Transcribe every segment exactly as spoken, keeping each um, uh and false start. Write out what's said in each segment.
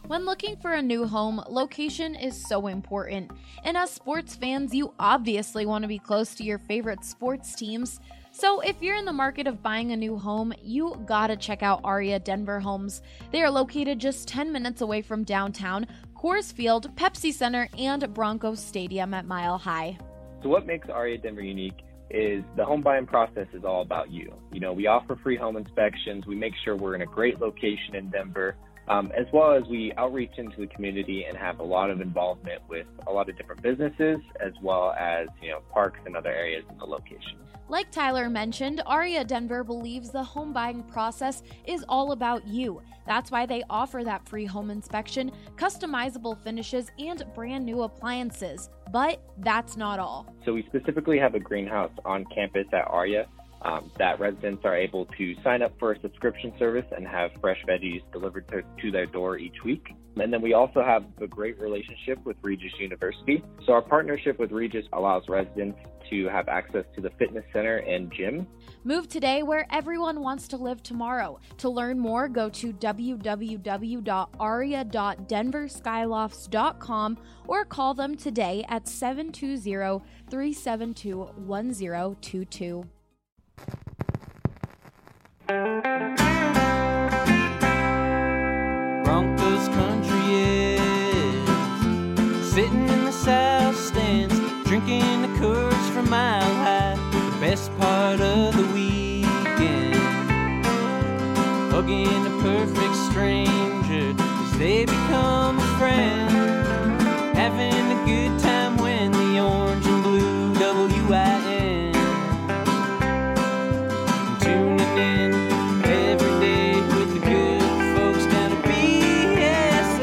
When looking for a new home, location is so important. And as sports fans, you obviously want to be close to your favorite sports teams. So if you're in the market of buying a new home, you gotta check out Aria Denver Homes. They are located just ten minutes away from downtown, Coors Field, Pepsi Center, and Broncos Stadium at Mile High. So what makes Aria Denver unique is the home buying process is all about you. You know, we offer free home inspections. We make sure we're in a great location in Denver. Um, as well as we outreach into the community and have a lot of involvement with a lot of different businesses, as well as, you know, parks and other areas in the location. Like Tyler mentioned, Aria Denver believes the home buying process is all about you. That's why they offer that free home inspection, customizable finishes, and brand new appliances. But that's not all. So we specifically have a greenhouse on campus at Aria. Um, that residents are able to sign up for a subscription service and have fresh veggies delivered to, to their door each week. And then we also have a great relationship with Regis University. So our partnership with Regis allows residents to have access to the fitness center and gym. Move today where everyone wants to live tomorrow. To learn more, go to w w w dot aria dot denver skylofts dot com or call them today at seven two zero, three seven two, one zero two two. Broncos country is sitting in the south stands, drinking the Coors from Mile High. The best part of the weekend, hugging a perfect stranger as they become a friend, having a good time when the orange and blue W I N tuning in every day with the good folks down at B S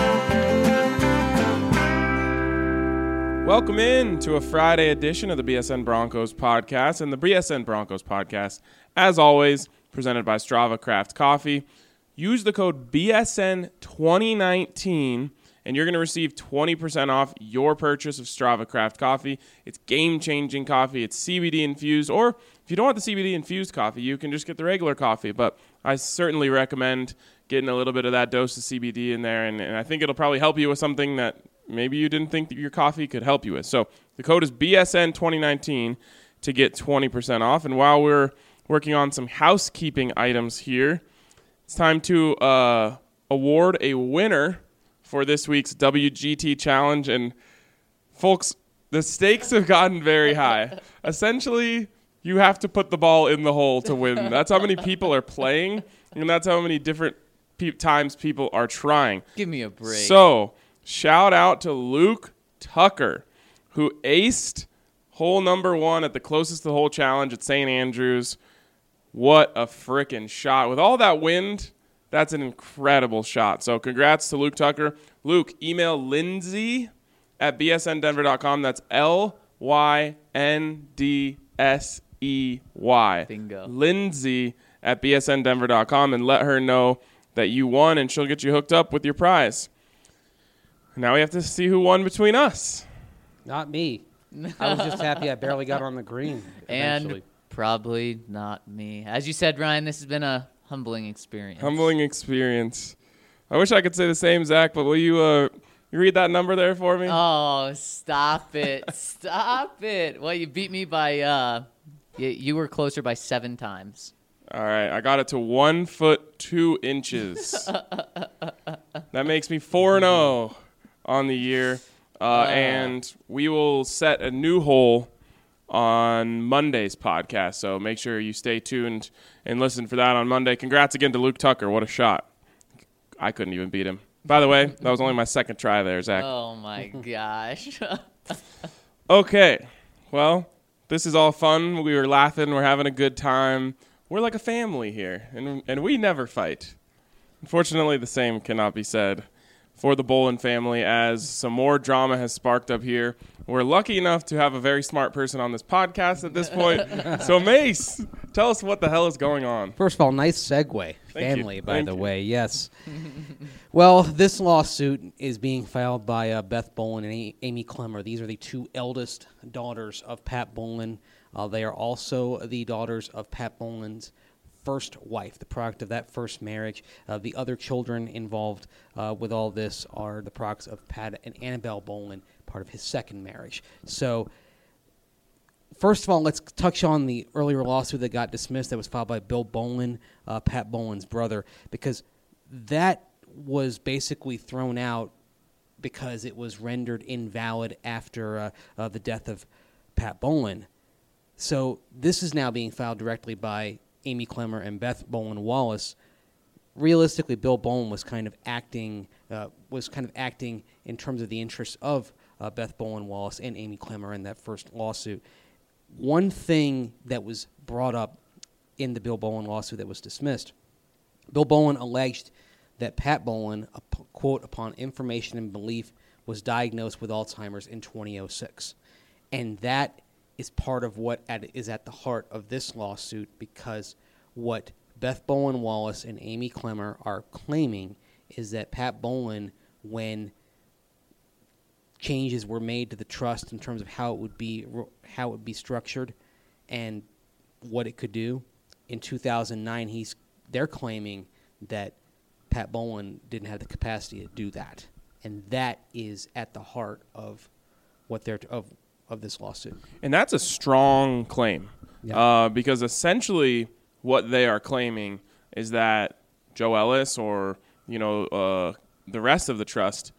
N. Welcome in to a Friday edition of the B S N Broncos podcast. And the B S N Broncos podcast, as always, presented by Strava Craft Coffee. Use the code B S N twenty nineteen and you're going to receive twenty percent off your purchase of Strava Craft Coffee. It's game-changing coffee. It's C B D infused, or if you don't want the C B D infused coffee, you can just get the regular coffee. But I certainly recommend getting a little bit of that dose of C B D in there, and, and I think it'll probably help you with something that maybe you didn't think that your coffee could help you with. So the code is B S N twenty nineteen to get twenty percent off. And while we're working on some housekeeping items here, it's time to uh, award a winner for this week's W G T Challenge. And folks, the stakes have gotten very high. Essentially, you have to put the ball in the hole to win. That's how many people are playing, and that's how many different pe- times people are trying. Give me a break. So, shout out to Luke Tucker, who aced hole number one at the closest to the hole challenge at Saint Andrews. What a frickin' shot. With all that wind, that's an incredible shot. So congrats to Luke Tucker. Luke, email Lindsay at b s n denver dot com. That's L Y N D S E Y. Bingo. Lindsay at b s n denver dot com and let her know that you won, and she'll get you hooked up with your prize. Now we have to see who won between us. Not me. I was just happy I barely got on the green eventually. And probably not me. As you said, Ryan, this has been a humbling experience. Humbling experience. I wish I could say the same, Zach, but will you uh, you read that number there for me? Oh, stop it. Stop it. Well, you beat me by, uh, you, you were closer by seven times. All right, I got it to one foot two inches. That makes me four and oh on the year. Uh, uh, and we will set a new hole on Monday's podcast, so make sure you stay tuned and listen for that on Monday. Congrats again to Luke Tucker. What a shot. I couldn't even beat him. By the way, that was only my second try there, Zach. Oh, my gosh. Okay, well, this is all fun. We were laughing. We're having a good time. We're like a family here, and and we never fight. Unfortunately, the same cannot be said for the Bolin family, as some more drama has sparked up here. We're lucky enough to have a very smart person on this podcast at this point. So, Mace, tell us what the hell is going on. First of all, nice segue. Thank Family, you. by Thank the you. way, yes. Well, this lawsuit is being filed by uh, Beth Bolin and A- Amy Clemmer. These are the two eldest daughters of Pat Bolin. Uh, they are also the daughters of Pat Bolin's first wife, the product of that first marriage. Uh, the other children involved uh, with all this are the products of Pat and Annabelle Bolen, part of his second marriage. So, first of all, let's touch on the earlier lawsuit that got dismissed that was filed by Bill Bolen, uh, Pat Bolen's brother, because that was basically thrown out because it was rendered invalid after uh, uh, the death of Pat Bolen. So this is now being filed directly by Amy Clemmer and Beth Bolen Wallace. Realistically, Bill Bolen was kind of acting uh, was kind of acting in terms of the interests of uh, Beth Bolen Wallace and Amy Clemmer in that first lawsuit. One thing that was brought up in the Bill Bolen lawsuit that was dismissed, Bill Bolen alleged that Pat Bolen, quote, upon information and belief, was diagnosed with Alzheimer's in twenty oh six. And that is part of what at, is at the heart of this lawsuit, because what Beth Bolen Wallace and Amy Clemmer are claiming is that Pat Bolen, when changes were made to the trust in terms of how it would be how it would be structured and what it could do, in two thousand nine, he's they're claiming that Pat Bolen didn't have the capacity to do that, and that is at the heart of what they're of of this lawsuit. And that's a strong claim, Yeah. uh, because essentially what they are claiming is that Joe Ellis or you know uh, the rest of the trust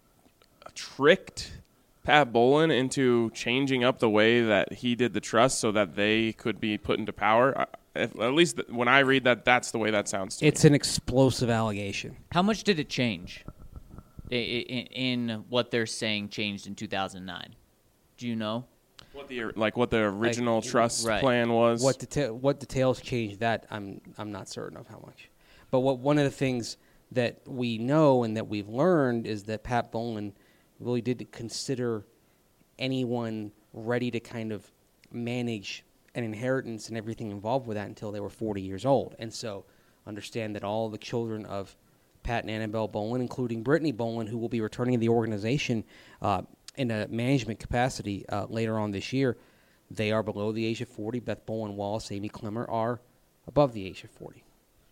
tricked Pat Bolen into changing up the way that he did the trust so that they could be put into power. I, if, at least th- when I read that, that's the way that sounds to It's me. an explosive allegation. How much did it change in, in what they're saying changed in two thousand nine? Do you know? What the like what the original Like, trust right. plan was. What deta- what details changed that? I'm I'm not certain of how much. But what one of the things that we know and that we've learned is that Pat Bolen really did consider anyone ready to kind of manage an inheritance and everything involved with that until they were forty years old. And so understand that all the children of Pat and Annabelle Bolen, including Brittany Bolen, who will be returning to the organization uh, in a management capacity uh, later on this year, they are below the age of forty. Beth Bolen Wallace, Amy Clemmer are above the age of forty.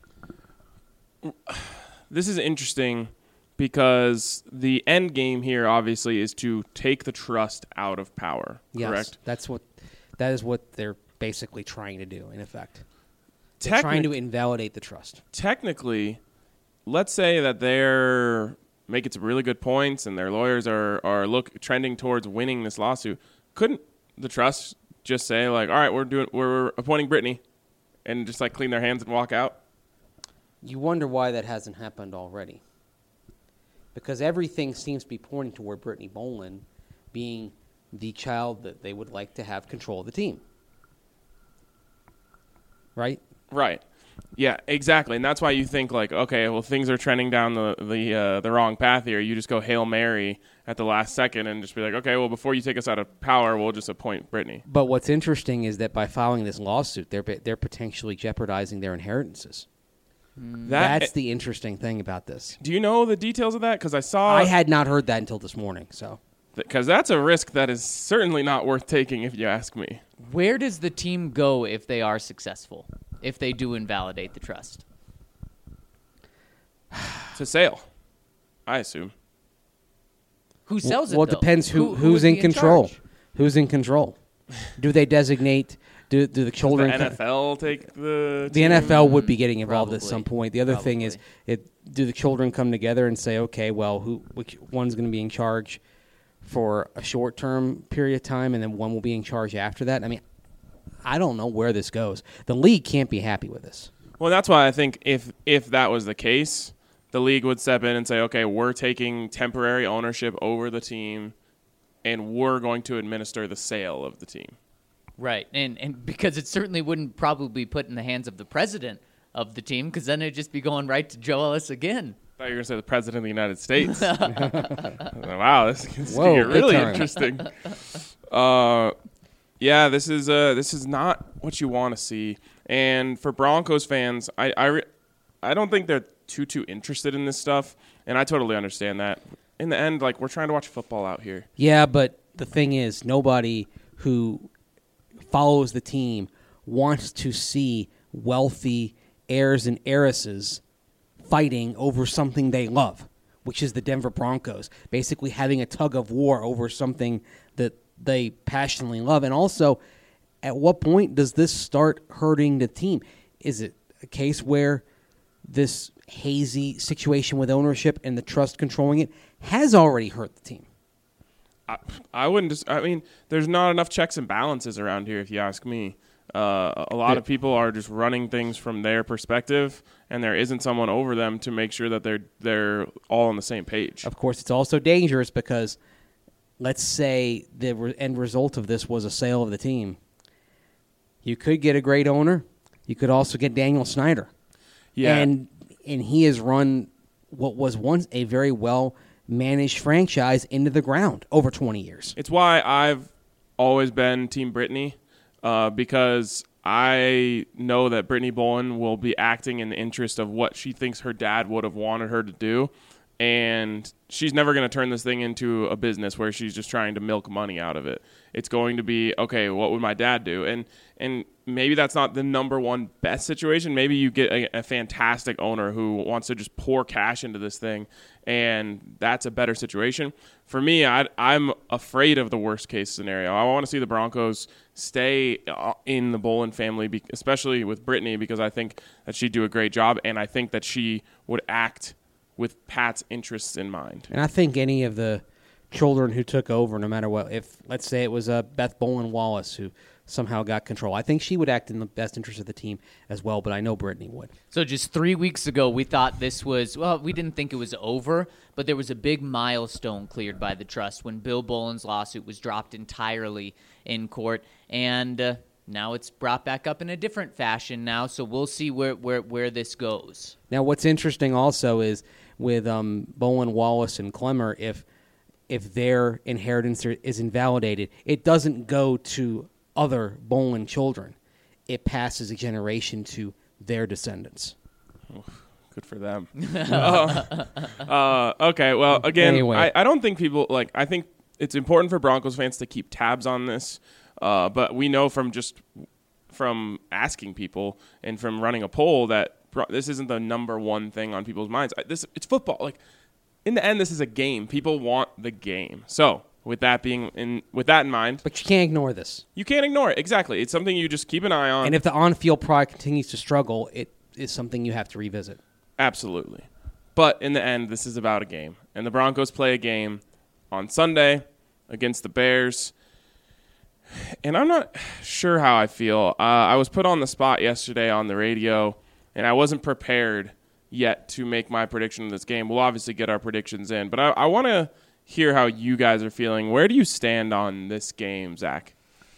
This is interesting because the end game here obviously is to take the trust out of power, Yes, correct? that's what that is what they're basically trying to do, in effect. They're Technic- trying to invalidate the trust. Technically, let's say that they're making some really good points and their lawyers are, are look trending towards winning this lawsuit. Couldn't the trust just say, like, all right, we're doing we're appointing Brittany and just like clean their hands and walk out? You wonder why that hasn't happened already. Because everything seems to be pointing toward Brittany Bolen being the child that they would like to have control of the team. Right? Right. Yeah, exactly. And that's why you think like, okay, well, things are trending down the the uh, the wrong path here. You just go Hail Mary at the last second and just be like, okay, well, before you take us out of power, we'll just appoint Brittany. But what's interesting is that by filing this lawsuit, they're they're potentially jeopardizing their inheritances. That, That's the interesting thing about this. do you know the details of that? Because I saw I had not heard that until this morning. So because that's a risk that is certainly not worth taking, if you ask me. Where does the team go if they are successful? If they do invalidate the trust? To sale, I assume. Who sells well, it, it though? depends who, Who- who who's would in be in control. charge? Who's in control? Do they designate? Do do the Does children? the N F L take the The N F L would be getting involved at Probably. some point. The other thing is, it, do the children come together and say, okay, well, who which one's going to be in charge for a short-term period of time, and then one will be in charge after that? I mean, I don't know where this goes. The league can't be happy with this. Well, that's why I think if if that was the case, the league would step in and say, okay, we're taking temporary ownership over the team, and we're going to administer the sale of the team. Right, and and because it certainly wouldn't probably be put in the hands of the president of the team, because then it'd just be going right to Joe Ellis again. I thought you were going to say the president of the United States. Wow, this, this Whoa, could get big really time. interesting. Uh, yeah, this is uh, this is not what you want to see. And for Broncos fans, I I, re- I don't think they're too too interested in this stuff, and I totally understand that. In the end, like we're trying to watch football out here. Yeah, but the thing is, nobody who follows the team wants to see wealthy heirs and heiresses fighting over something they love, which is the Denver Broncos, basically having a tug of war over something that they passionately love. And also, at what point does this start hurting the team? Is it a case where this hazy situation with ownership and the trust controlling it has already hurt the team? I, I wouldn't just, I mean, there's not enough checks and balances around here, if you ask me. Uh, a lot Yeah. of people are just running things from their perspective, and there isn't someone over them to make sure that they're they're all on the same page. Of course, it's also dangerous because let's say the re- end result of this was a sale of the team. You could get a great owner. You could also get Daniel Snyder. Yeah. And and he has run what was once a very well-managed franchise into the ground over twenty years. It's why I've always been Team Brittany, uh, because I know that Brittany Bowen will be acting in the interest of what she thinks her dad would have wanted her to do. And she's never going to turn this thing into a business where she's just trying to milk money out of it. It's going to be, okay, what would my dad do? And and maybe that's not the number one best situation. Maybe you get a, a fantastic owner who wants to just pour cash into this thing, and that's a better situation. For me, I, I'm afraid of the worst case scenario. I want to see the Broncos stay in the Bolin family, especially with Brittany, because I think that she'd do a great job, and I think that she would act with Pat's interests in mind. And I think any of the children who took over, no matter what, if let's say it was uh, Beth Bolin Wallace who somehow got control, I think she would act in the best interest of the team as well, but I know Brittany would. So just three weeks ago, we thought this was, well, we didn't think it was over, but there was a big milestone cleared by the trust when Bill Bolin's lawsuit was dropped entirely in court, and uh, now it's brought back up in a different fashion now, so we'll see where, where, where this goes. Now, what's interesting also is with um, Bolin, Wallace, and Clemmer, if if their inheritance is invalidated, it doesn't go to other Bolin children. It passes a generation to their descendants. Oh, good for them. uh, uh, okay, well, again, Anyway. I, I don't think people, like, I think it's important for Broncos fans to keep tabs on this, uh, but we know from just from asking people and from running a poll that this isn't the number one thing on people's minds. This it's football. Like, in the end, this is a game. People want the game. So, with that being in, with that in mind, But you can't ignore this. you can't ignore it. Exactly, it's something you just keep an eye on. And if the on-field product continues to struggle, it is something you have to revisit. Absolutely, but in the end, this is about a game, and the Broncos play a game on Sunday against the Bears. And I'm not sure how I feel. Uh, I was put on the spot yesterday on the radio, and I wasn't prepared yet to make my prediction of this game. We'll obviously get our predictions in, but I, I want to hear how you guys are feeling. Where do you stand on this game, Zach?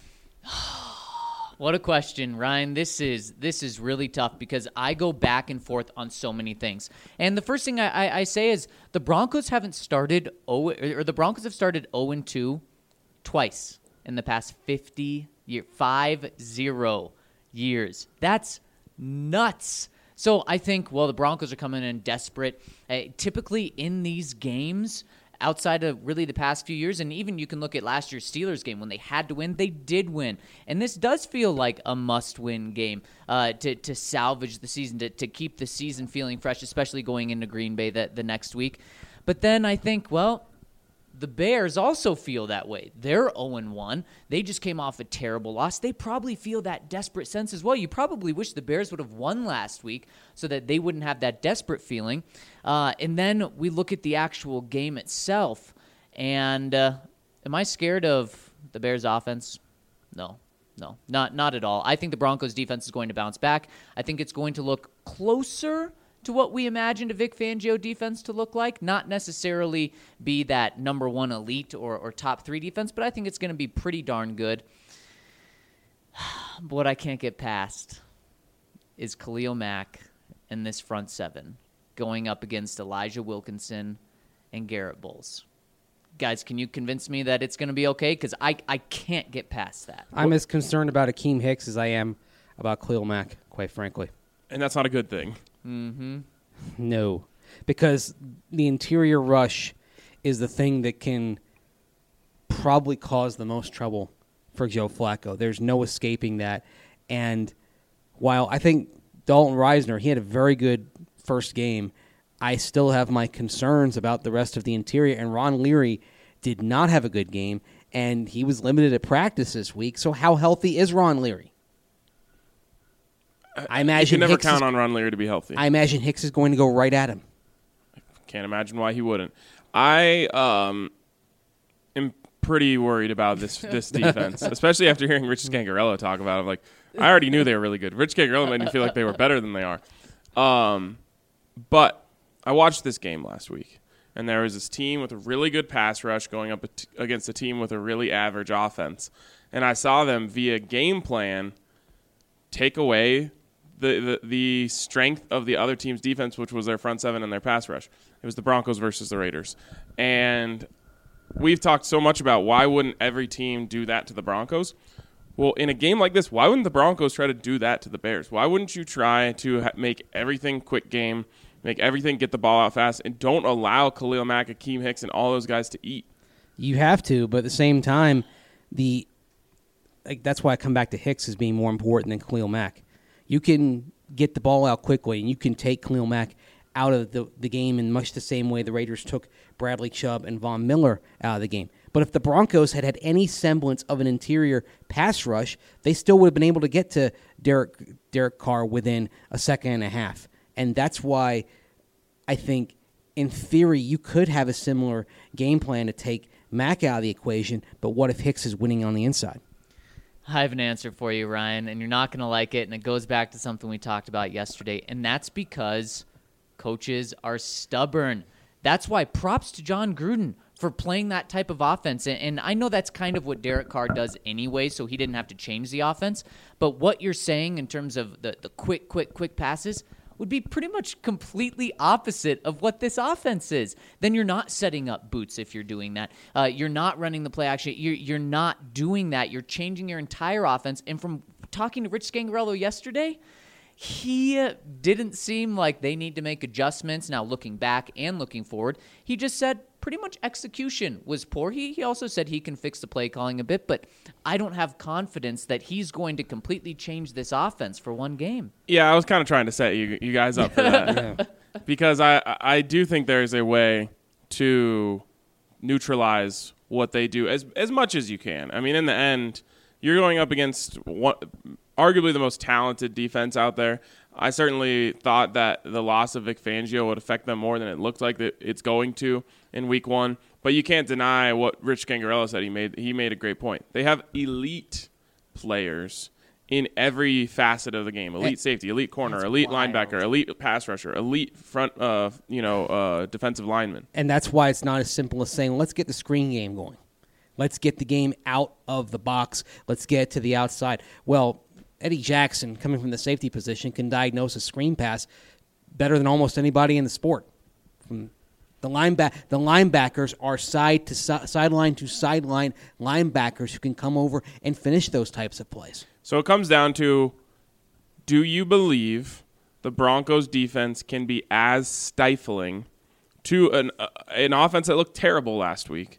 What a question, Ryan. This is this is really tough because I go back and forth on so many things. And the first thing I, I, I say is the Broncos haven't started oh, or the Broncos have started oh and two twice in the past fifty year five zero years. That's nuts. So I think, well, the Broncos are coming in desperate. Uh, typically in these games, outside of really the past few years, and even you can look at last year's Steelers game when they had to win, they did win. And this does feel like a must-win game uh, to to salvage the season, to, to keep the season feeling fresh, especially going into Green Bay the, the next week. But then I think, well, the Bears also feel that way. They're oh and one. They just came off a terrible loss. They probably feel that desperate sense as well. You probably wish the Bears would have won last week so that they wouldn't have that desperate feeling. Uh, and then we look at the actual game itself. And uh, am I scared of the Bears' offense? No. No, not not at all. I think the Broncos' defense is going to bounce back. I think it's going to look closer to what we imagined a Vic Fangio defense to look like. Not necessarily be that number one elite or, or top three defense, but I think it's going to be pretty darn good. But what I can't get past is Khalil Mack and this front seven going up against Elijah Wilkinson and Garrett Bowles. Guys, can you convince me that it's going to be okay? Because I, I can't get past that. I'm as concerned about Akeem Hicks as I am about Khalil Mack, quite frankly. And that's not a good thing. Mm-hmm. No, because the interior rush is the thing that can probably cause the most trouble for Joe Flacco. There's no escaping that. And while I think Dalton Reisner, he had a very good first game. I still have my concerns about the rest of the interior, and Ron Leary did not have a good game, and he was limited at practice this week. So how healthy is Ron Leary? I imagine you can never Hicks count is, on Ron Leary to be healthy. I imagine Hicks is going to go right at him. Can't imagine why he wouldn't. I um, am pretty worried about this this defense, especially after hearing Rich Scangarello talk about it. Like, I already knew they were really good. Rich Scangarello made me feel like they were better than they are. Um, but I watched this game last week, and there was this team with a really good pass rush going up against a team with a really average offense. And I saw them, via game plan, take away the, the, the strength of the other team's defense, which was their front seven and their pass rush. It was the Broncos versus the Raiders. And we've talked so much about why wouldn't every team do that to the Broncos. Well, in a game like this, why wouldn't the Broncos try to do that to the Bears? Why wouldn't you try to ha- make everything quick game, make everything get the ball out fast, and don't allow Khalil Mack, Akeem Hicks, and all those guys to eat? You have to, but at the same time, the like, that's why I come back to Hicks as being more important than Khalil Mack. You can get the ball out quickly, and you can take Khalil Mack out of the, the game in much the same way the Raiders took Bradley Chubb and Von Miller out of the game. But if the Broncos had had any semblance of an interior pass rush, they still would have been able to get to Derek Derek Carr within a second and a half. And that's why I think, in theory, you could have a similar game plan to take Mack out of the equation, but what if Hicks is winning on the inside? I have an answer for you, Ryan, and you're not going to like it, and it goes back to something we talked about yesterday, and that's because coaches are stubborn. That's why props to John Gruden for playing that type of offense. And I know that's kind of what Derek Carr does anyway, so he didn't have to change the offense. But what you're saying in terms of the, the quick, quick, quick passes would be pretty much completely opposite of what this offense is. Then you're not setting up boots if you're doing that. Uh, you're not running the play action. You're, you're not doing that. You're changing your entire offense. And from talking to Rich Scangarello yesterday, he didn't seem like they need to make adjustments. Now, looking back and looking forward, he just said pretty much execution was poor. He, he also said he can fix the play calling a bit, but I don't have confidence that he's going to completely change this offense for one game. Yeah, I was kind of trying to set you, you guys up for that. Yeah. Because I, I do think there's a way to neutralize what they do as as much as you can. I mean, in the end, you're going up against one, arguably the most talented defense out there. I certainly thought that the loss of Vic Fangio would affect them more than it looked like that it's going to in week one. But you can't deny what Rich Scangarello said. He made he made a great point. They have elite players in every facet of the game: elite safety, elite corner, That's elite wild. linebacker, elite pass rusher, elite front, uh, you know, uh, defensive lineman. And that's why it's not as simple as saying, let's get the screen game going. Let's get the game out of the box. Let's get it to the outside. Well, Eddie Jackson, coming from the safety position, can diagnose a screen pass better than almost anybody in the sport. From the lineback, the linebackers are side to si- sideline to sideline linebackers who can come over and finish those types of plays. So it comes down to, do you believe the Broncos defense can be as stifling to an uh, an offense that looked terrible last week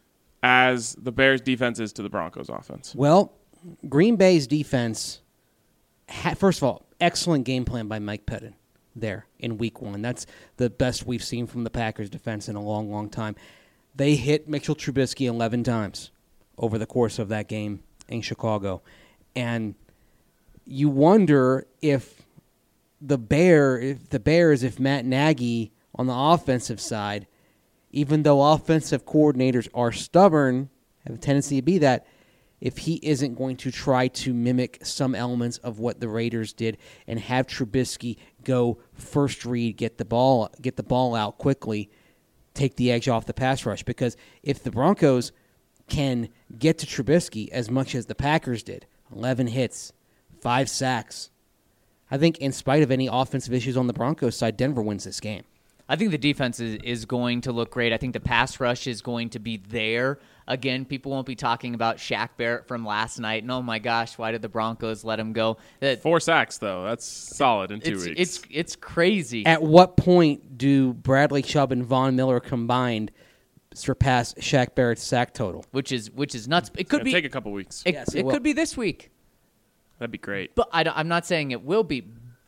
as the Bears defense is to the Broncos offense? Well, Green Bay's defense, had, first of all, excellent game plan by Mike Pettin there in week one. That's the best we've seen from the Packers defense in a long, long time. They hit Mitchell Trubisky eleven times over the course of that game in Chicago. And you wonder if the Bear, if the Bears, if Matt Nagy on the offensive side, even though offensive coordinators are stubborn, have a tendency to be that, if he isn't going to try to mimic some elements of what the Raiders did and have Trubisky go first read, get the ball, get the ball out quickly, take the edge off the pass rush. Because if the Broncos can get to Trubisky as much as the Packers did, eleven hits, five sacks, I think in spite of any offensive issues on the Broncos side, Denver wins this game. I think the defense is, is going to look great. I think the pass rush is going to be there. Again, people won't be talking about Shaq Barrett from last night. And oh my gosh, why did the Broncos let him go? That, Four sacks, though. That's solid in two it's, weeks. It's it's crazy. At what point do Bradley Chubb and Von Miller combined surpass Shaq Barrett's sack total? Which is which is nuts. It could It'll be take a couple weeks. It, Yes, it it will. could be this week. That'd be great. But I don't, I'm not saying it will be.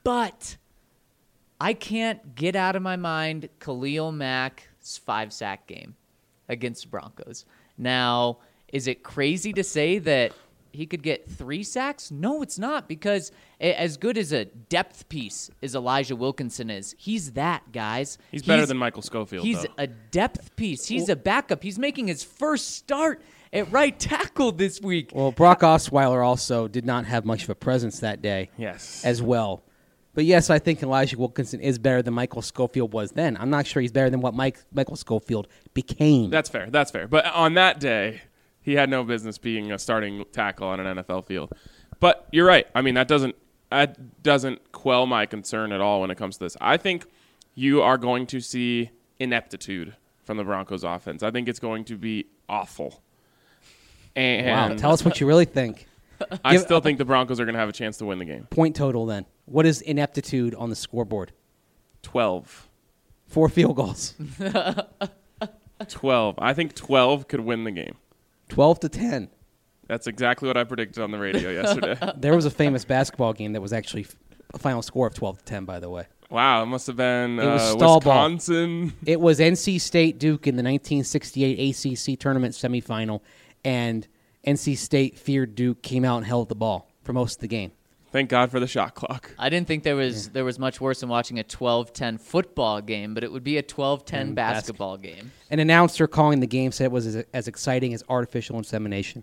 But I can't get out of my mind Khalil Mack's five-sack game against the Broncos. Now, is it crazy to say that he could get three sacks? No, it's not, because as good as a depth piece as Elijah Wilkinson is, he's that, guys. He's, he's better than Michael Schofield, He's though. a depth piece. He's a backup. He's making his first start at right tackle this week. Well, Brock Osweiler also did not have much of a presence that day yes. as well. But, yes, I think Elijah Wilkinson is better than Michael Schofield was then. I'm not sure he's better than what Mike Michael Schofield became. That's fair. That's fair. But on that day, he had no business being a starting tackle on an N F L field. But you're right. I mean, that doesn't that doesn't quell my concern at all when it comes to this. I think you are going to see ineptitude from the Broncos offense. I think it's going to be awful. And wow. Tell us what you really think. I Give, still think the Broncos are going to have a chance to win the game. Point total, then. What is ineptitude on the scoreboard? twelve. Four field goals. twelve. I think twelve could win the game. twelve to ten. That's exactly what I predicted on the radio yesterday. There was a famous basketball game that was actually a final score of twelve to ten, by the way. Wow, it must have been It was uh, stall Wisconsin. Ball. It was N C State Duke in the nineteen sixty-eight A C C tournament semifinal, and N C State feared Duke, came out and held the ball for most of the game. Thank God for the shot clock. I didn't think there was yeah. there was much worse than watching a twelve ten football game, but it would be a twelve ten basketball basket. game. An announcer calling the game said it was as, as exciting as artificial insemination.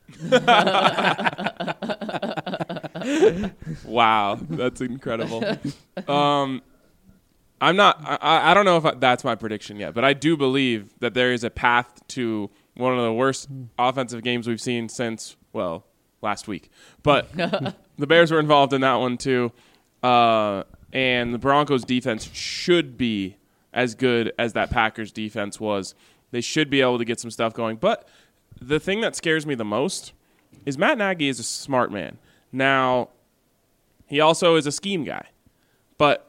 Wow, that's incredible. Um, I'm not. I, I don't know if I, that's my prediction yet, but I do believe that there is a path to one of the worst offensive games we've seen since, well, last week. But the Bears were involved in that one too, uh, and the Broncos' defense should be as good as that Packers' defense was. They should be able to get some stuff going. But the thing that scares me the most is Matt Nagy is a smart man. Now, he also is a scheme guy. But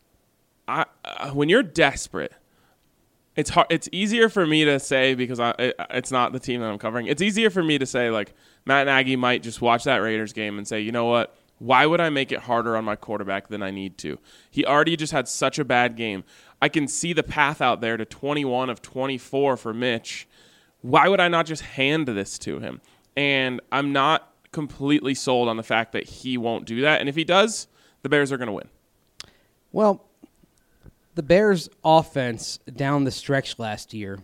I, uh, when you're desperate, it's hard. It's easier for me to say, because I, it, it's not the team that I'm covering. It's easier for me to say, like, Matt Nagy might just watch that Raiders game and say, you know what? Why would I make it harder on my quarterback than I need to? He already just had such a bad game. I can see the path out there to twenty-one of twenty-four for Mitch. Why would I not just hand this to him? And I'm not completely sold on the fact that he won't do that. And if he does, the Bears are going to win. Well, the Bears' offense down the stretch last year,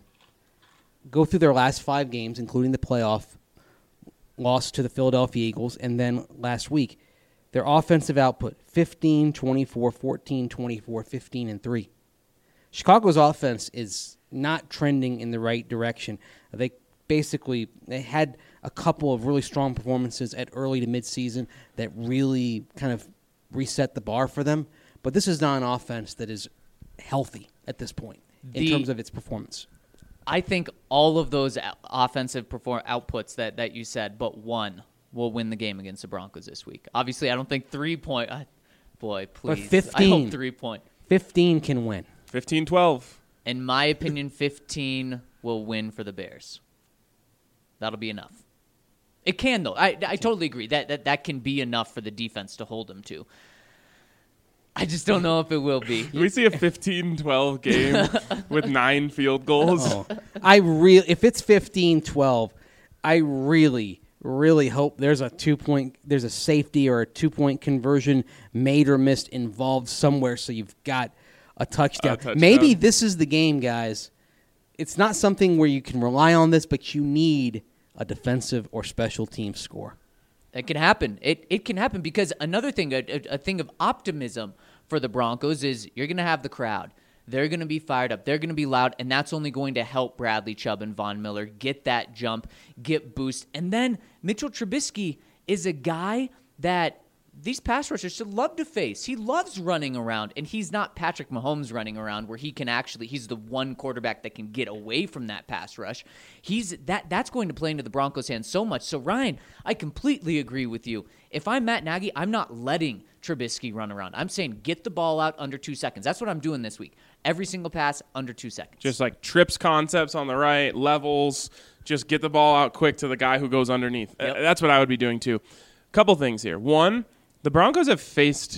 go through their last five games, including the playoff loss to the Philadelphia Eagles, and then last week, their offensive output, fifteen, twenty-four, fourteen, twenty-four, fifteen, and three. Chicago's offense is not trending in the right direction. They basically they had a couple of really strong performances at early to midseason that really kind of reset the bar for them. But this is not an offense that is healthy at this point in the, terms of its performance. I think all of those offensive perform outputs that, that you said, but one will win the game against the Broncos this week. Obviously, I don't think three point. Uh, boy, please. But fifteen. I hope three point. fifteen can win. fifteen twelve. In my opinion, fifteen will win for the Bears. That'll be enough. It can, though. I, I totally agree. That, that that can be enough for the defense to hold them to. I just don't know if it will be. Can we see a fifteen twelve game with nine field goals? Oh. I really, if it's fifteen twelve, I really, really hope there's a two-point, there's a safety or a two-point conversion made or missed involved somewhere, so you've got a touchdown. A touchdown. Maybe this is the game, guys. It's not something where you can rely on this, but you need a defensive or special team score. It can happen. It it can happen because another thing, a, a, a thing of optimism for the Broncos is you're going to have the crowd. They're going to be fired up. They're going to be loud, and that's only going to help Bradley Chubb and Von Miller get that jump, get boost. And then Mitchell Trubisky is a guy that these pass rushers should love to face. He loves running around, and he's not Patrick Mahomes running around where he can actually, he's the one quarterback that can get away from that pass rush. He's that that's going to play into the Broncos' hands so much. So, Ryan, I completely agree with you. If I'm Matt Nagy, I'm not letting Trubisky run around. I'm saying get the ball out under two seconds. That's what I'm doing this week. Every single pass under two seconds. Just like trips concepts on the right, levels, just get the ball out quick to the guy who goes underneath. Yep. That's what I would be doing too. Couple things here. One, the Broncos have faced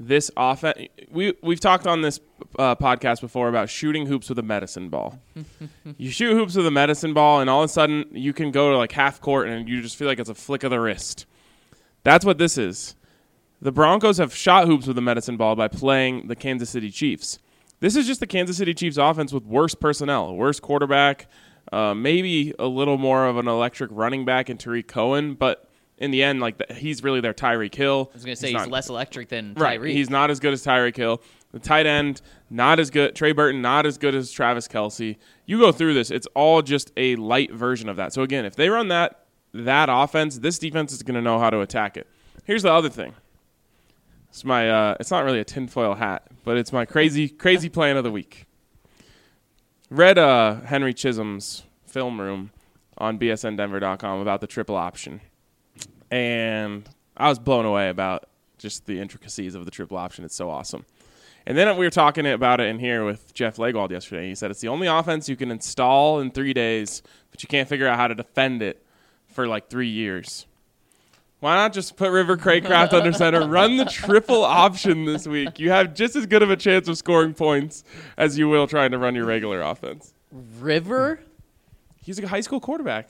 this offense, we, we've talked on this uh, podcast before about shooting hoops with a medicine ball. You shoot hoops with a medicine ball, and all of a sudden you can go to like half court, and you just feel like it's a flick of the wrist. That's what this is. The Broncos have shot hoops with a medicine ball by playing the Kansas City Chiefs. This is just the Kansas City Chiefs offense with worse personnel, worse quarterback, uh, maybe a little more of an electric running back in Tariq Cohen, but in the end, like the, he's really their Tyreek Hill. I was going to say he's, he's not, less electric than right, Tyreek. He's not as good as Tyreek Hill. The tight end, not as good. Trey Burton, not as good as Travis Kelce. You go through this, it's all just a light version of that. So again, if they run that that offense, this defense is going to know how to attack it. Here's the other thing. It's my. Uh, it's not really a tinfoil hat, but it's my crazy, crazy plan of the week. Read uh, Henry Chisholm's film room on B S N Denver dot com about the triple option, and I was blown away about just the intricacies of the triple option. It's so awesome. And then we were talking about it in here with Jeff Legwald yesterday. He said it's the only offense you can install in three days, but you can't figure out how to defend it for like three years. Why not just put River Craycraft under center, run the triple option this week? You have just as good of a chance of scoring points as you will trying to run your regular offense. River? He's a high school quarterback.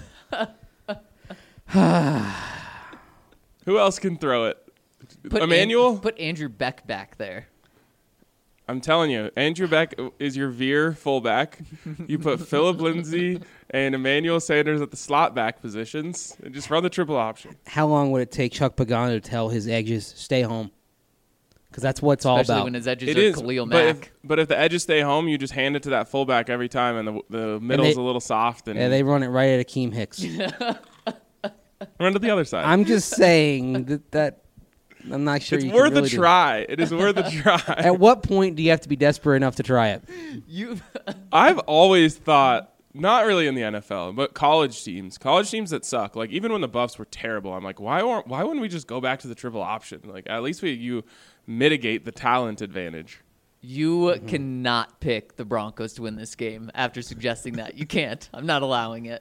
Who else can throw it? Put Emmanuel? An- put Andrew Beck back there. I'm telling you, Andrew Beck is your veer fullback. You put Phillip Lindsay and Emmanuel Sanders at the slot back positions and just run the triple option. How long would it take Chuck Pagano to tell his edges stay home? Because that's what it's all Especially about. when his edges It are is, Khalil but Mack. if, but if the edges stay home, you just hand it to that fullback every time, and the the middle's they- a little soft, and Yeah, they run it right at Akeem Hicks. run to the other side. I'm just saying that, that I'm not sure it's you worth can really a do try. It is worth a try. At what point do you have to be desperate enough to try it? You I've always thought, not really in the N F L, but college teams, college teams that suck. Like even when the Buffs were terrible, I'm like, why aren't, why wouldn't we just go back to the triple option? Like at least we you mitigate the talent advantage. You Mm-hmm. cannot pick the Broncos to win this game after suggesting that. You can't. I'm not allowing it.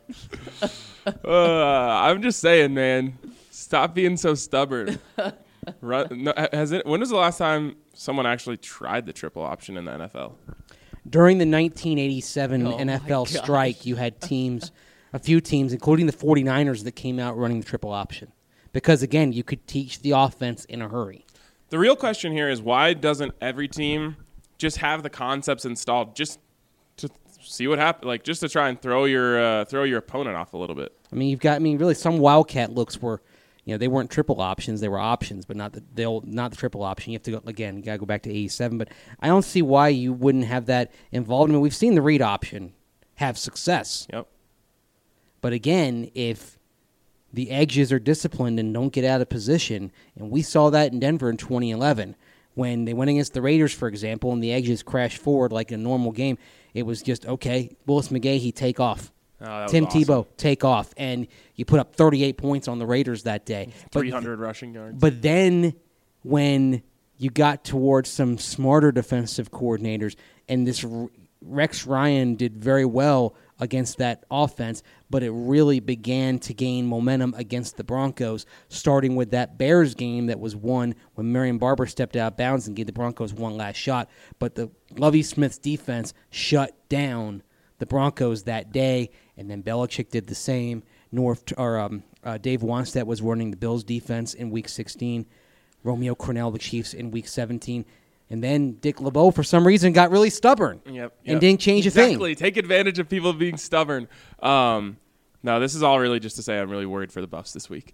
uh, I'm just saying, man. Stop being so stubborn. Run, no, has it? When was the last time someone actually tried the triple option in the N F L? During the nineteen eighty-seven Oh N F L my gosh. strike, you had teams, a few teams, including the 49ers, that came out running the triple option. Because, again, you could teach the offense in a hurry. The real question here is why doesn't every team just have the concepts installed just to see what happens, like just to try and throw your uh, throw your opponent off a little bit? I mean, you've got, I mean, really, some Wildcat looks were, you know, they weren't triple options. They were options, but not the they'll not the triple option. You have to go again. You got to go back to eighty-seven. But I don't see why you wouldn't have that involved. I mean, we've seen the read option have success. Yep. But again, if the edges are disciplined and don't get out of position, and we saw that in Denver in twenty eleven when they went against the Raiders, for example, and the edges crashed forward like a normal game. It was just okay. Willis McGahee take off. Oh, that was Tim awesome. Tebow take off, and you put up thirty-eight points on the Raiders that day. But- three hundred rushing yards. But then when you got towards some smarter defensive coordinators, and this R- Rex Ryan did very well against that offense, but it really began to gain momentum against the Broncos, starting with that Bears game that was won when Marion Barber stepped out of bounds and gave the Broncos one last shot. But the Lovie Smith's defense shut down the Broncos that day, and then Belichick did the same. North or um, uh, Dave Wanstead was running the Bills' defense in Week sixteen. Romeo Crennel, the Chiefs, in Week seventeen. And then Dick LeBeau, for some reason, got really stubborn Yep, yep. and didn't change a exactly. thing. Take advantage of people being stubborn. Um, no, this is all really just to say I'm really worried for the Buffs this week.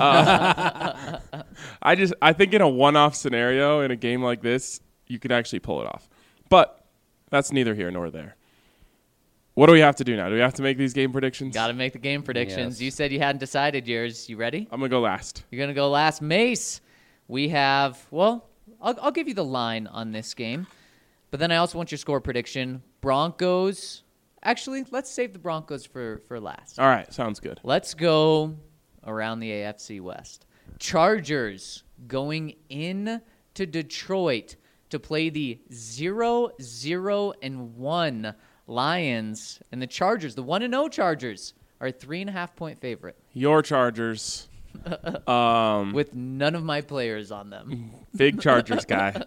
Uh, I just I think in a one-off scenario in a game like this, you could actually pull it off. But that's neither here nor there. What do we have to do now? Do we have to make these game predictions? Got to make the game predictions. Yes. You said you hadn't decided yours. You ready? I'm going to go last. You're going to go last. Mace, we have, well, I'll, I'll give you the line on this game. But then I also want your score prediction. Broncos. Actually, let's save the Broncos for, for last. All right, sounds good. Let's go around the A F C West. Chargers going in to Detroit to play the zero zero and one Lions. And the Chargers, the one and oh Chargers, are a three and a half point favorite. Your Chargers. Um, with none of my players on them. big Chargers guy.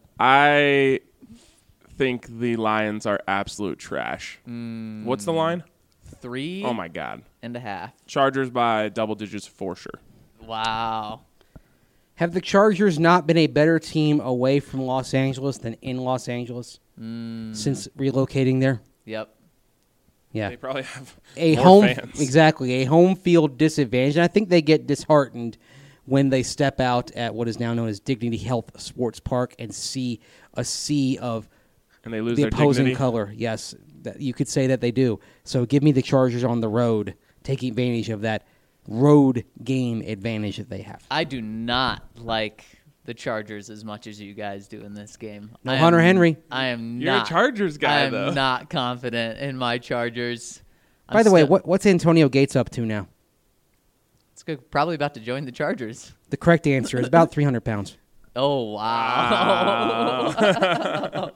I think the Lions are absolute trash. Mm, What's the line? Three Oh, my God. and a half. Chargers by double digits for sure. Wow. Have the Chargers not been a better team away from Los Angeles than in Los Angeles Mm, since relocating there? yep. Yeah. They probably have a more home fans. exactly a home field disadvantage. And I think they get disheartened when they step out at what is now known as Dignity Health Sports Park and see a sea of And they lose the their opposing dignity. color. Yes, that, you could say that they do. So give me the Chargers on the road, taking advantage of that road game advantage that they have. I do not like the Chargers as much as you guys do in this game. No I Hunter am- Henry. I am You're a not. Chargers guy, I'm though. not confident in my Chargers. I'm By the way, still- what, what's Antonio Gates up to now? It's good, probably about to join the Chargers. The correct answer is about three hundred pounds. Oh wow! Wow.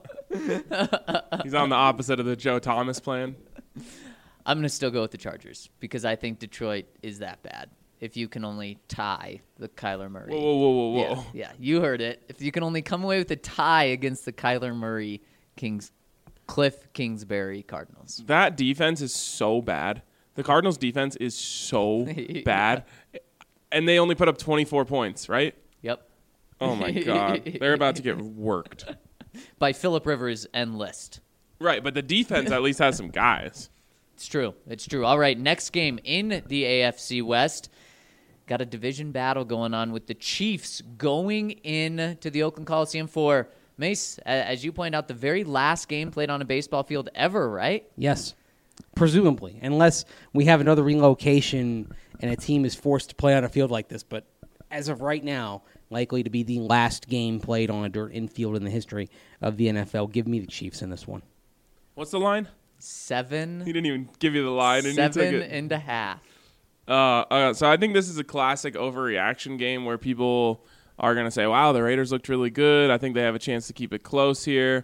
He's on the opposite of the Joe Thomas plan. I'm gonna still go with the Chargers because I think Detroit is that bad. If you can only tie the Kyler Murray. Whoa, whoa, whoa, whoa, Yeah, whoa. yeah, you heard it. If you can only come away with a tie against the Kyler Murray Kings, Cliff Kingsbury Cardinals. That defense is so bad. The Cardinals' defense is so bad. And they only put up twenty-four points, right? Yep. Oh, my God. They're about to get worked. By Phillip Rivers and List. Right, but the defense at least has some guys. It's true. It's true. All right, next game in the A F C West. Got a division battle going on with the Chiefs going in to the Oakland Coliseum for, Mace, a- as you point out, the very last game played on a baseball field ever, right? Yes, presumably, unless we have another relocation and a team is forced to play on a field like this. But as of right now, likely to be the last game played on a dirt infield in the history of the N F L. Give me the Chiefs in this one. What's the line? Seven, He didn't even give you the line. And you took seven it. and a half. Uh, uh, so I think this is a classic overreaction game where people are going to say, wow, the Raiders looked really good. I think they have a chance to keep it close here.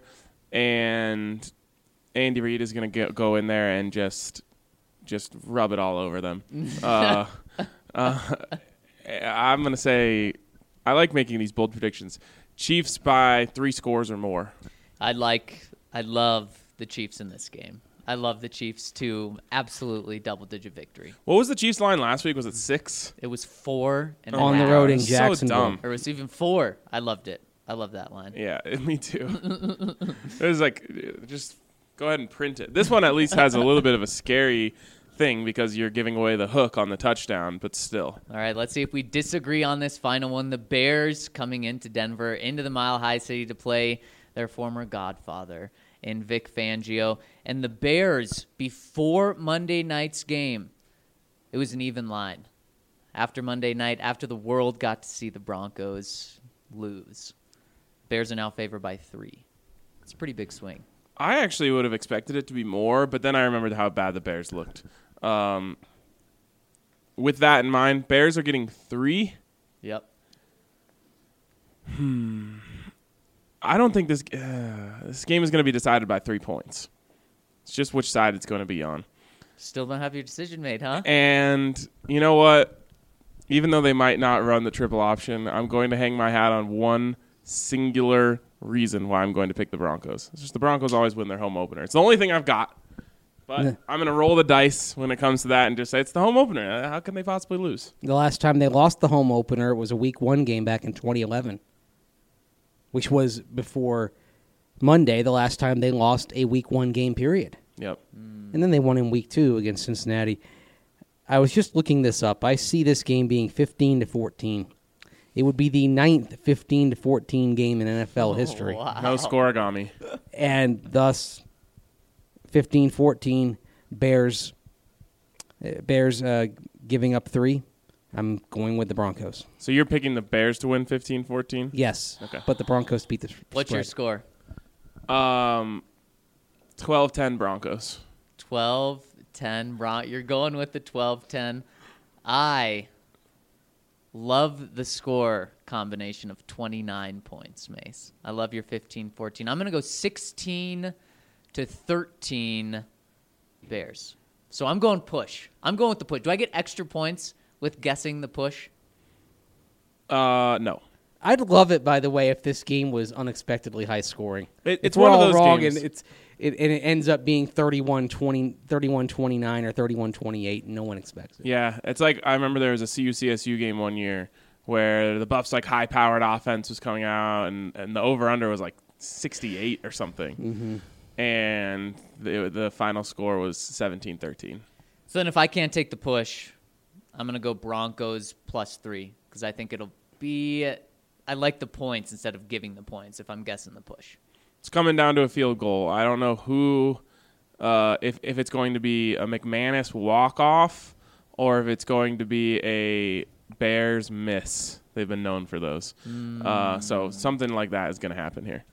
And Andy Reid is going to go in there and just just rub it all over them. uh, uh, I'm going to say I like making these bold predictions. Chiefs by three scores or more. I like, I love the Chiefs in this game. I love the Chiefs to absolutely double-digit victory. What was the Chiefs line last week? Was it six? It was four and a On the half. road in So Jacksonville. dumb. Or it was even four. I loved it. I love that line. Yeah, me too. It was like, just go ahead and print it. This one at least has a little bit of a scary thing because you're giving away the hook on the touchdown, but still. All right, let's see if we disagree on this final one. The Bears coming into Denver, into the Mile High City to play their former godfather in Vic Fangio. And the Bears, before Monday night's game, it was an even line. After Monday night, after the world got to see the Broncos lose, Bears are now favored by three. It's a pretty big swing. I actually would have expected it to be more, but then I remembered how bad the Bears looked. Um, with that in mind, Bears are getting three. Yep. I don't think this uh, this game is going to be decided by three points. It's just which side it's going to be on. Still don't have your decision made, huh? And you know what? Even though they might not run the triple option, I'm going to hang my hat on one singular reason why I'm going to pick the Broncos. It's just the Broncos always win their home opener. It's the only thing I've got. But Yeah. I'm going to roll the dice when it comes to that and just say it's the home opener. How can they possibly lose? The last time they lost the home opener was a week one game back in twenty eleven, which was before Monday, the last time they lost a week one game period. Yep. And then they won in week two against Cincinnati. I was just looking this up. I see this game being fifteen to fourteen. It would be the ninth fifteen to fourteen game in N F L history. Wow. No scoreagami. And thus, fifteen fourteen, Bears, uh, Bears uh, giving up three. I'm going with the Broncos. So you're picking the Bears to win fifteen fourteen? Yes, Okay. but the Broncos beat the What's your spread. score? Um, twelve ten Broncos. twelve ten. Bron- You're going with the twelve ten. I love the score combination of twenty-nine points, Mace. I love your fifteen fourteen. I'm going to go sixteen to thirteen Bears. So I'm going push. I'm going with the push. Do I get extra points with guessing the push? Uh, no. I'd love it, by the way, if this game was unexpectedly high scoring. It, If it's we're one of all those wrong games. and it's it, and it ends up being thirty-one twenty, thirty-one twenty-nine or thirty-one twenty-eight, and no one expects it. Yeah, it's like I remember there was a C U C S U game one year where the Buffs like high powered offense was coming out and, and the over under was like sixty-eight or something. Mm-hmm. And the the final score was seventeen thirteen. So then if I can't take the push, I'm going to go Broncos plus three because I think it'll be – I like the points instead of giving the points if I'm guessing the push. It's coming down to a field goal. I don't know who uh, – if, if it's going to be a McManus walk-off or if it's going to be a Bears miss. They've been known for those. Mm. Uh, so something like that is going to happen here.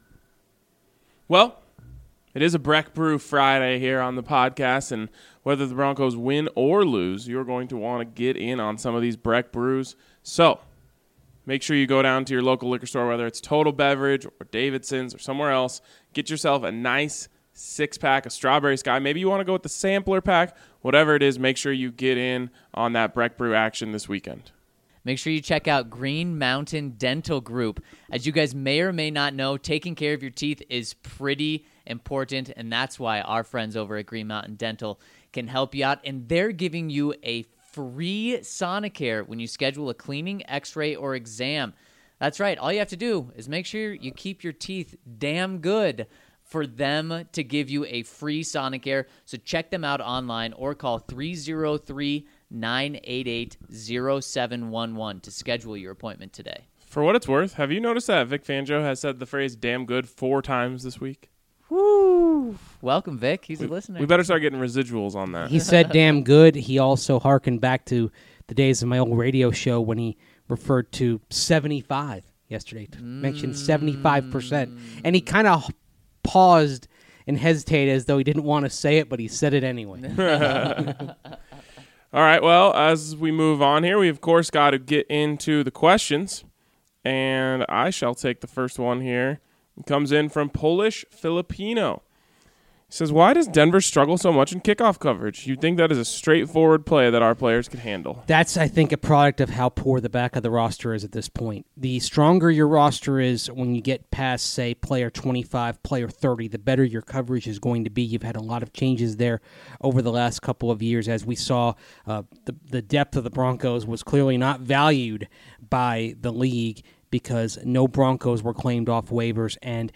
Well, it is a Breck Brew Friday here on the podcast, and whether the Broncos win or lose, you're going to want to get in on some of these Breck Brews. So make sure you go down to your local liquor store, whether it's Total Beverage or Davidson's or somewhere else. Get yourself a nice six-pack of Strawberry Sky. Maybe you want to go with the sampler pack. Whatever it is, make sure you get in on that Breck Brew action this weekend. Make sure you check out Green Mountain Dental Group. As you guys may or may not know, taking care of your teeth is pretty important, and that's why our friends over at Green Mountain Dental can help you out, and they're giving you a free Sonicare when you schedule a cleaning, x-ray, or exam. That's right. All you have to do is make sure you keep your teeth damn good for them to give you a free Sonicare. So check them out online or call three oh three, nine eight eight, oh seven one one to schedule your appointment today. For what it's worth, have you noticed that Vic Fangio has said the phrase damn good four times this week? Woo! Welcome, Vic. He's we, a listener. We better start getting residuals on that. He said damn good. He also hearkened back to the days of my old radio show when he referred to seventy-five yesterday. Mm. Mentioned seventy-five percent. And he kind of paused and hesitated as though he didn't want to say it, but he said it anyway. All right, well, as we move on here, we, of course, got to get into the questions. And I shall take the first one here. It comes in from Polish Filipino. He says, why does Denver struggle so much in kickoff coverage? You'd think that is a straightforward play that our players could handle. That's, I think, a product of how poor the back of the roster is at this point. The stronger your roster is when you get past, say, player twenty-five, player thirty, the better your coverage is going to be. You've had a lot of changes there over the last couple of years. As we saw, uh, the, the depth of the Broncos was clearly not valued by the league because no Broncos were claimed off waivers, and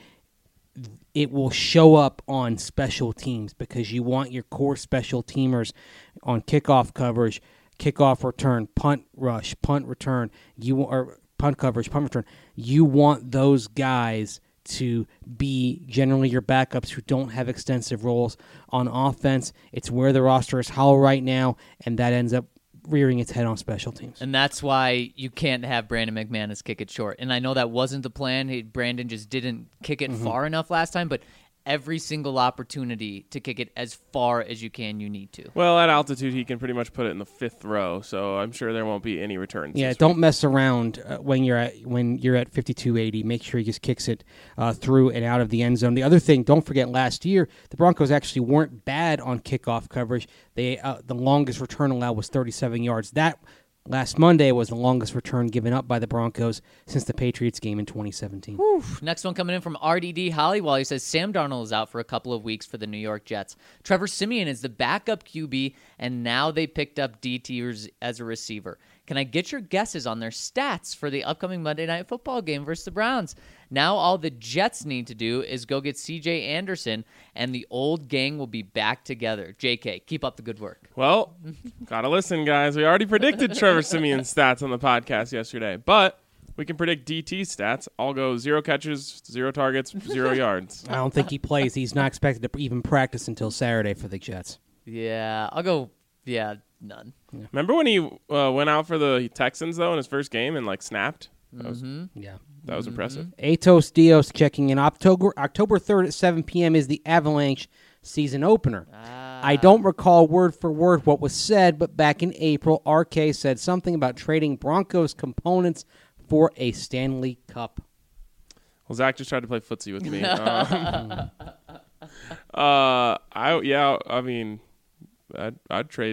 it will show up on special teams because you want your core special teamers on kickoff coverage, kickoff return, punt rush, punt return, you or punt coverage, punt return. You want those guys to be generally your backups who don't have extensive roles on offense. It's where the roster is hollow right now, and that ends up rearing its head on special teams. And that's why you can't have Brandon McManus kick it short. And I know that wasn't the plan. He, Brandon just didn't kick it mm-hmm. far enough last time, but every single opportunity to kick it as far as you can, you need to. Well, at altitude, he can pretty much put it in the fifth row, so I'm sure there won't be any returns. Yeah, don't week. mess around uh, when you're at when you're at fifty-two eighty. Make sure he just kicks it uh, through and out of the end zone. The other thing, don't forget, last year the Broncos actually weren't bad on kickoff coverage. They uh, the longest return allowed was thirty-seven yards. That last Monday was the longest return given up by the Broncos since the Patriots game in twenty seventeen. Whew. Next one coming in from R D D Hollywell. He says Sam Darnold is out for a couple of weeks for the New York Jets. Trevor Siemian is the backup Q B, and now they picked up D T as a receiver. Can I get your guesses on their stats for the upcoming Monday Night Football game versus the Browns? Now all the Jets need to do is go get C J Anderson, and the old gang will be back together. J K, keep up the good work. Well, gotta listen, guys. We already predicted Trevor Siemian's stats on the podcast yesterday, but we can predict D T's stats. I'll go zero catches, zero targets, zero yards. I don't think he plays. He's not expected to even practice until Saturday for the Jets. Yeah, I'll go, yeah, none. Yeah. Remember when he uh, went out for the Texans, though, in his first game and, like, snapped? That was, mm-hmm. Yeah. That was mm-hmm. impressive. Atos Dios checking in. October October third at seven p.m. is the Avalanche season opener. Ah. I don't recall word for word what was said, but back in April, R K said something about trading Broncos components for a Stanley Cup. Well, Zach just tried to play footsie with me. um, uh, I yeah, I mean, I'd, I'd trade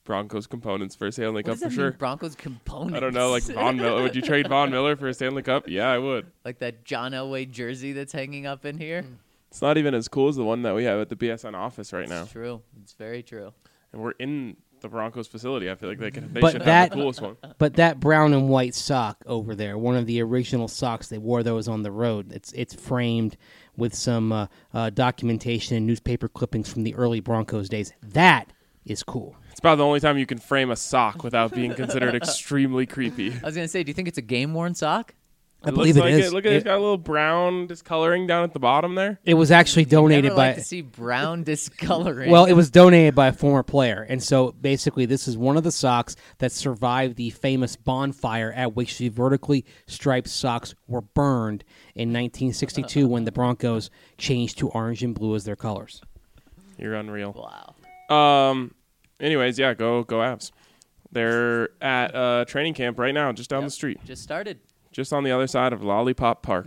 Broncos components for a Stanley What Cup does for that sure. mean, Broncos components? I don't know, like Von Miller. Would you trade Von Miller for a Stanley Cup? Yeah, I would. Like that John Elway jersey that's hanging up in here. It's not even as cool as the one that we have at the B S N office right now. It's true. It's very true. And we're in the Broncos facility. I feel like they can. They But should that- have the coolest one. But that brown and white sock over there, one of the original socks, they wore those on the road. It's it's framed with some uh, uh, documentation and newspaper clippings from the early Broncos days. That is cool. It's about the only time you can frame a sock without being considered extremely creepy. I was gonna say, do you think it's a game worn sock? I It believe looks it like is. Look at it. It- It's got a little brown discoloring down at the bottom there. It was actually donated Never by. like to see brown discoloring. Well, it was donated by a former player, and so basically, this is one of the socks that survived the famous bonfire at which the vertically striped socks were burned in nineteen sixty-two when the Broncos changed to orange and blue as their colors. You're unreal. wow. Um. Anyways, yeah, go go Avs. They're at uh, training camp right now, just down Yep. the street, Just started. just on the other side of Lollipop Park.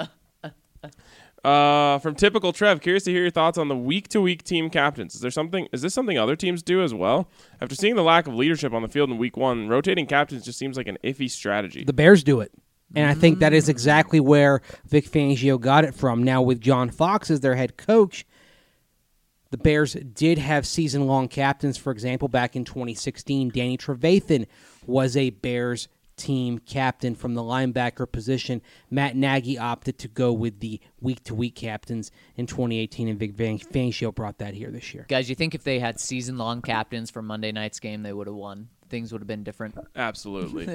uh, from typical Trev, curious to hear your thoughts on the week-to-week team captains. Is there something? Is this something other teams do as well? After seeing the lack of leadership on the field in week one, rotating captains just seems like an iffy strategy. The Bears do it. And I think that is exactly where Vic Fangio got it from. Now, with John Fox as their head coach, the Bears did have season-long captains. For example, back in twenty sixteen, Danny Trevathan was a Bears team captain from the linebacker position. Matt Nagy opted to go with the week-to-week captains in twenty eighteen, and Vic Fangio brought that here this year. Guys, you think if they had season long captains for Monday night's game, they would have won? Things would have been different. Absolutely.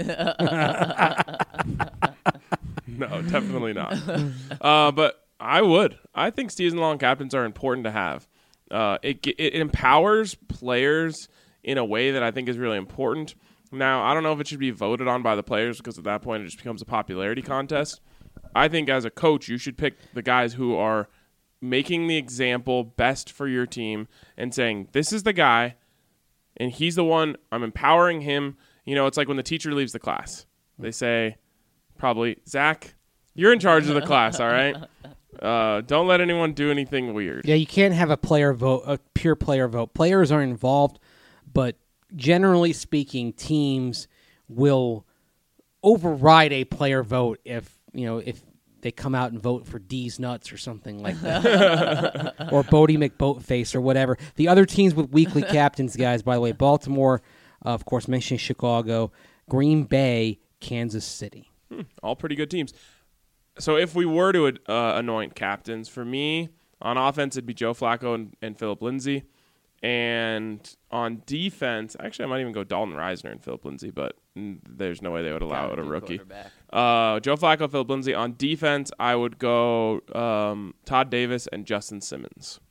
No, definitely not. Uh, but I would. I think season-long captains are important to have. Uh, it, it empowers players in a way that I think is really important. Now, I don't know if it should be voted on by the players because at that point it just becomes a popularity contest. I think as a coach, you should pick the guys who are making the example best for your team and saying, this is the guy, and he's the one, I'm empowering him. You know, it's like when the teacher leaves the class. They say, probably, Zach, you're in charge of the class, all right? Uh, don't let anyone do anything weird. Yeah, you can't have a player vote, a pure player vote. Players are involved, but generally speaking, teams will override a player vote if you know if they come out and vote for D's nuts or something like that, or Bodie McBoatface or whatever. The other teams with weekly captains, guys, by the way, Baltimore, uh, of course, mentioning Chicago, Green Bay, Kansas City. Hmm, all pretty good teams. So if we were to uh, anoint captains, for me, on offense, it'd be Joe Flacco and, and Philip Lindsay. And on defense, actually, I might even go Dalton Reisner and Philip Lindsay, but mm, there's no way they would allow Gotta it a be rookie. quarterback. Uh, Joe Flacco, Philip Lindsay. On defense, I would go um, Todd Davis and Justin Simmons.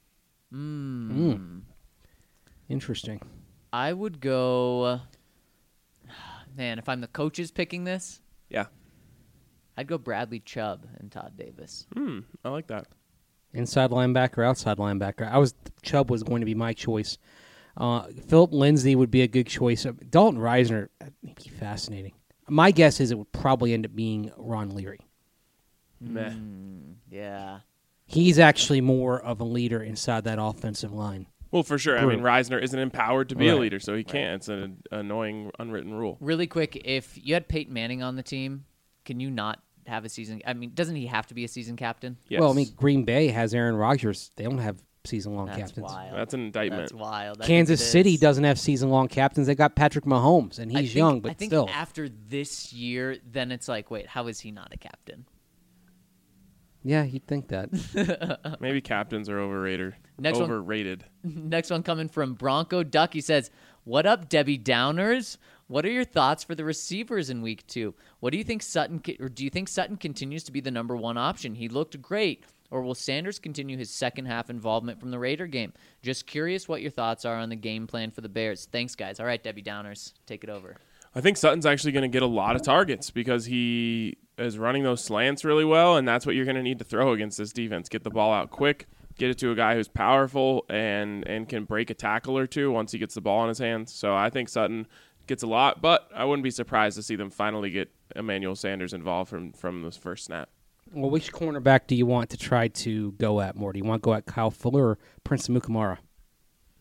Mm. Interesting. I would go. Man, if I'm the coaches picking this, Yeah. I'd go Bradley Chubb and Todd Davis. Hmm, I like that. Inside linebacker, outside linebacker. I was Chubb was going to be my choice. Uh, Philip Lindsay would be a good choice. Uh, Dalton Reisner, that'd be fascinating. My guess is it would probably end up being Ron Leary. Meh. Mm, yeah. He's actually more of a leader inside that offensive line. Well, for sure. I mean, Reisner isn't empowered to be a Right. leader, so he can't. It's an annoying, unwritten rule. Really quick, if you had Peyton Manning on the team, can you not have a season? I mean, doesn't he have to be a season captain? Yes. Well, I mean, Green Bay has Aaron Rodgers. They don't have season-long That's captains. wild. That's an indictment. That's wild. I think Kansas it City is. doesn't have season-long captains. They got Patrick Mahomes, and I he's think- young, but I think still. after this year, then it's like, wait, how is he not a captain? Yeah, you'd think that. Maybe captains are overrated. Next one. overrated. Next one coming from Bronco Duck. He says, "What up, Debbie Downers? What are your thoughts for the receivers in week two? What do you think Sutton, or do you think Sutton continues to be the number one option? He looked great. Or will Sanders continue his second half involvement from the Raider game? Just curious what your thoughts are on the game plan for the Bears. Thanks, guys. All right, Debbie Downers, take it over. I think Sutton's actually going to get a lot of targets because he is running those slants really well, and that's what you're going to need to throw against this defense. Get the ball out quick, get it to a guy who's powerful and, and can break a tackle or two once he gets the ball in his hands. So I think Sutton gets a lot, but I wouldn't be surprised to see them finally get Emmanuel Sanders involved from, from this first snap. Well, which cornerback do you want to try to go at more? Do you want to go at Kyle Fuller or Prince Mukamara?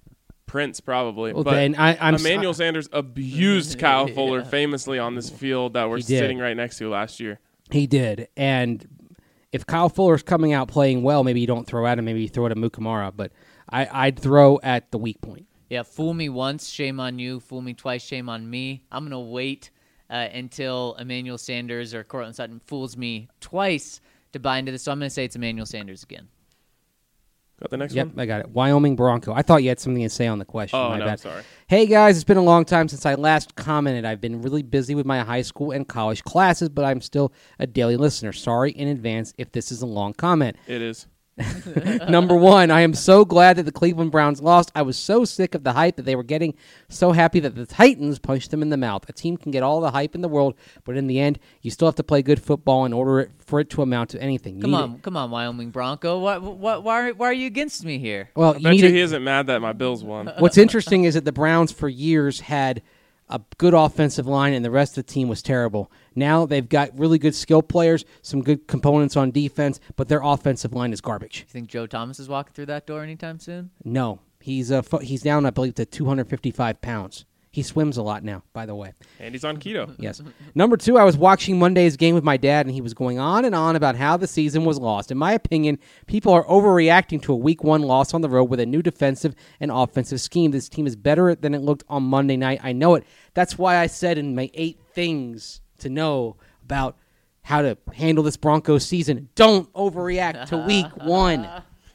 Prince probably. Well, but then I, I'm s- Emmanuel Sanders abused Kyle Yeah. Fuller famously on this field that we're He did. sitting right next to last year. He did, and if Kyle Fuller's coming out playing well, maybe you don't throw at him. Maybe you throw it at Mukamara. But I, I'd throw at the weak point. Yeah, fool me once, shame on you. Fool me twice, shame on me. I'm going to wait uh, until Emmanuel Sanders or Cortland Sutton fools me twice to buy into this. So I'm going to say it's Emmanuel Sanders again. Got the next Yep, one? I got it. Wyoming Bronco. I thought you had something to say on the question. Oh, My no, bad. sorry. Hey, guys, it's been a long time since I last commented. I've been really busy with my high school and college classes, but I'm still a daily listener. Sorry in advance if this is a long comment. It is. Number one, I am so glad that the Cleveland Browns lost. I was so sick of the hype that they were getting, so happy that the Titans punched them in the mouth. A team can get all the hype in the world, but in the end, you still have to play good football in order it, for it to amount to anything. You Come need on, it- come on, Wyoming Bronco. What, what, why, why are you against me here? Well, I you bet need you it- he isn't mad that my Bills won. What's interesting is that the Browns for years had a good offensive line and the rest of the team was terrible. Now they've got really good skill players, some good components on defense, but their offensive line is garbage. You think Joe Thomas is walking through that door anytime soon? No, he's uh, fu- he's down, I believe, to two hundred fifty-five pounds. He swims a lot now, by the way. And he's on keto. Yes. Number two, I was watching Monday's game with my dad, and he was going on and on about how the season was lost. In my opinion, people are overreacting to a week one loss on the road with a new defensive and offensive scheme. This team is better than it looked on Monday night. I know it. That's why I said in my eight things to know about how to handle this Broncos season, don't overreact to week one.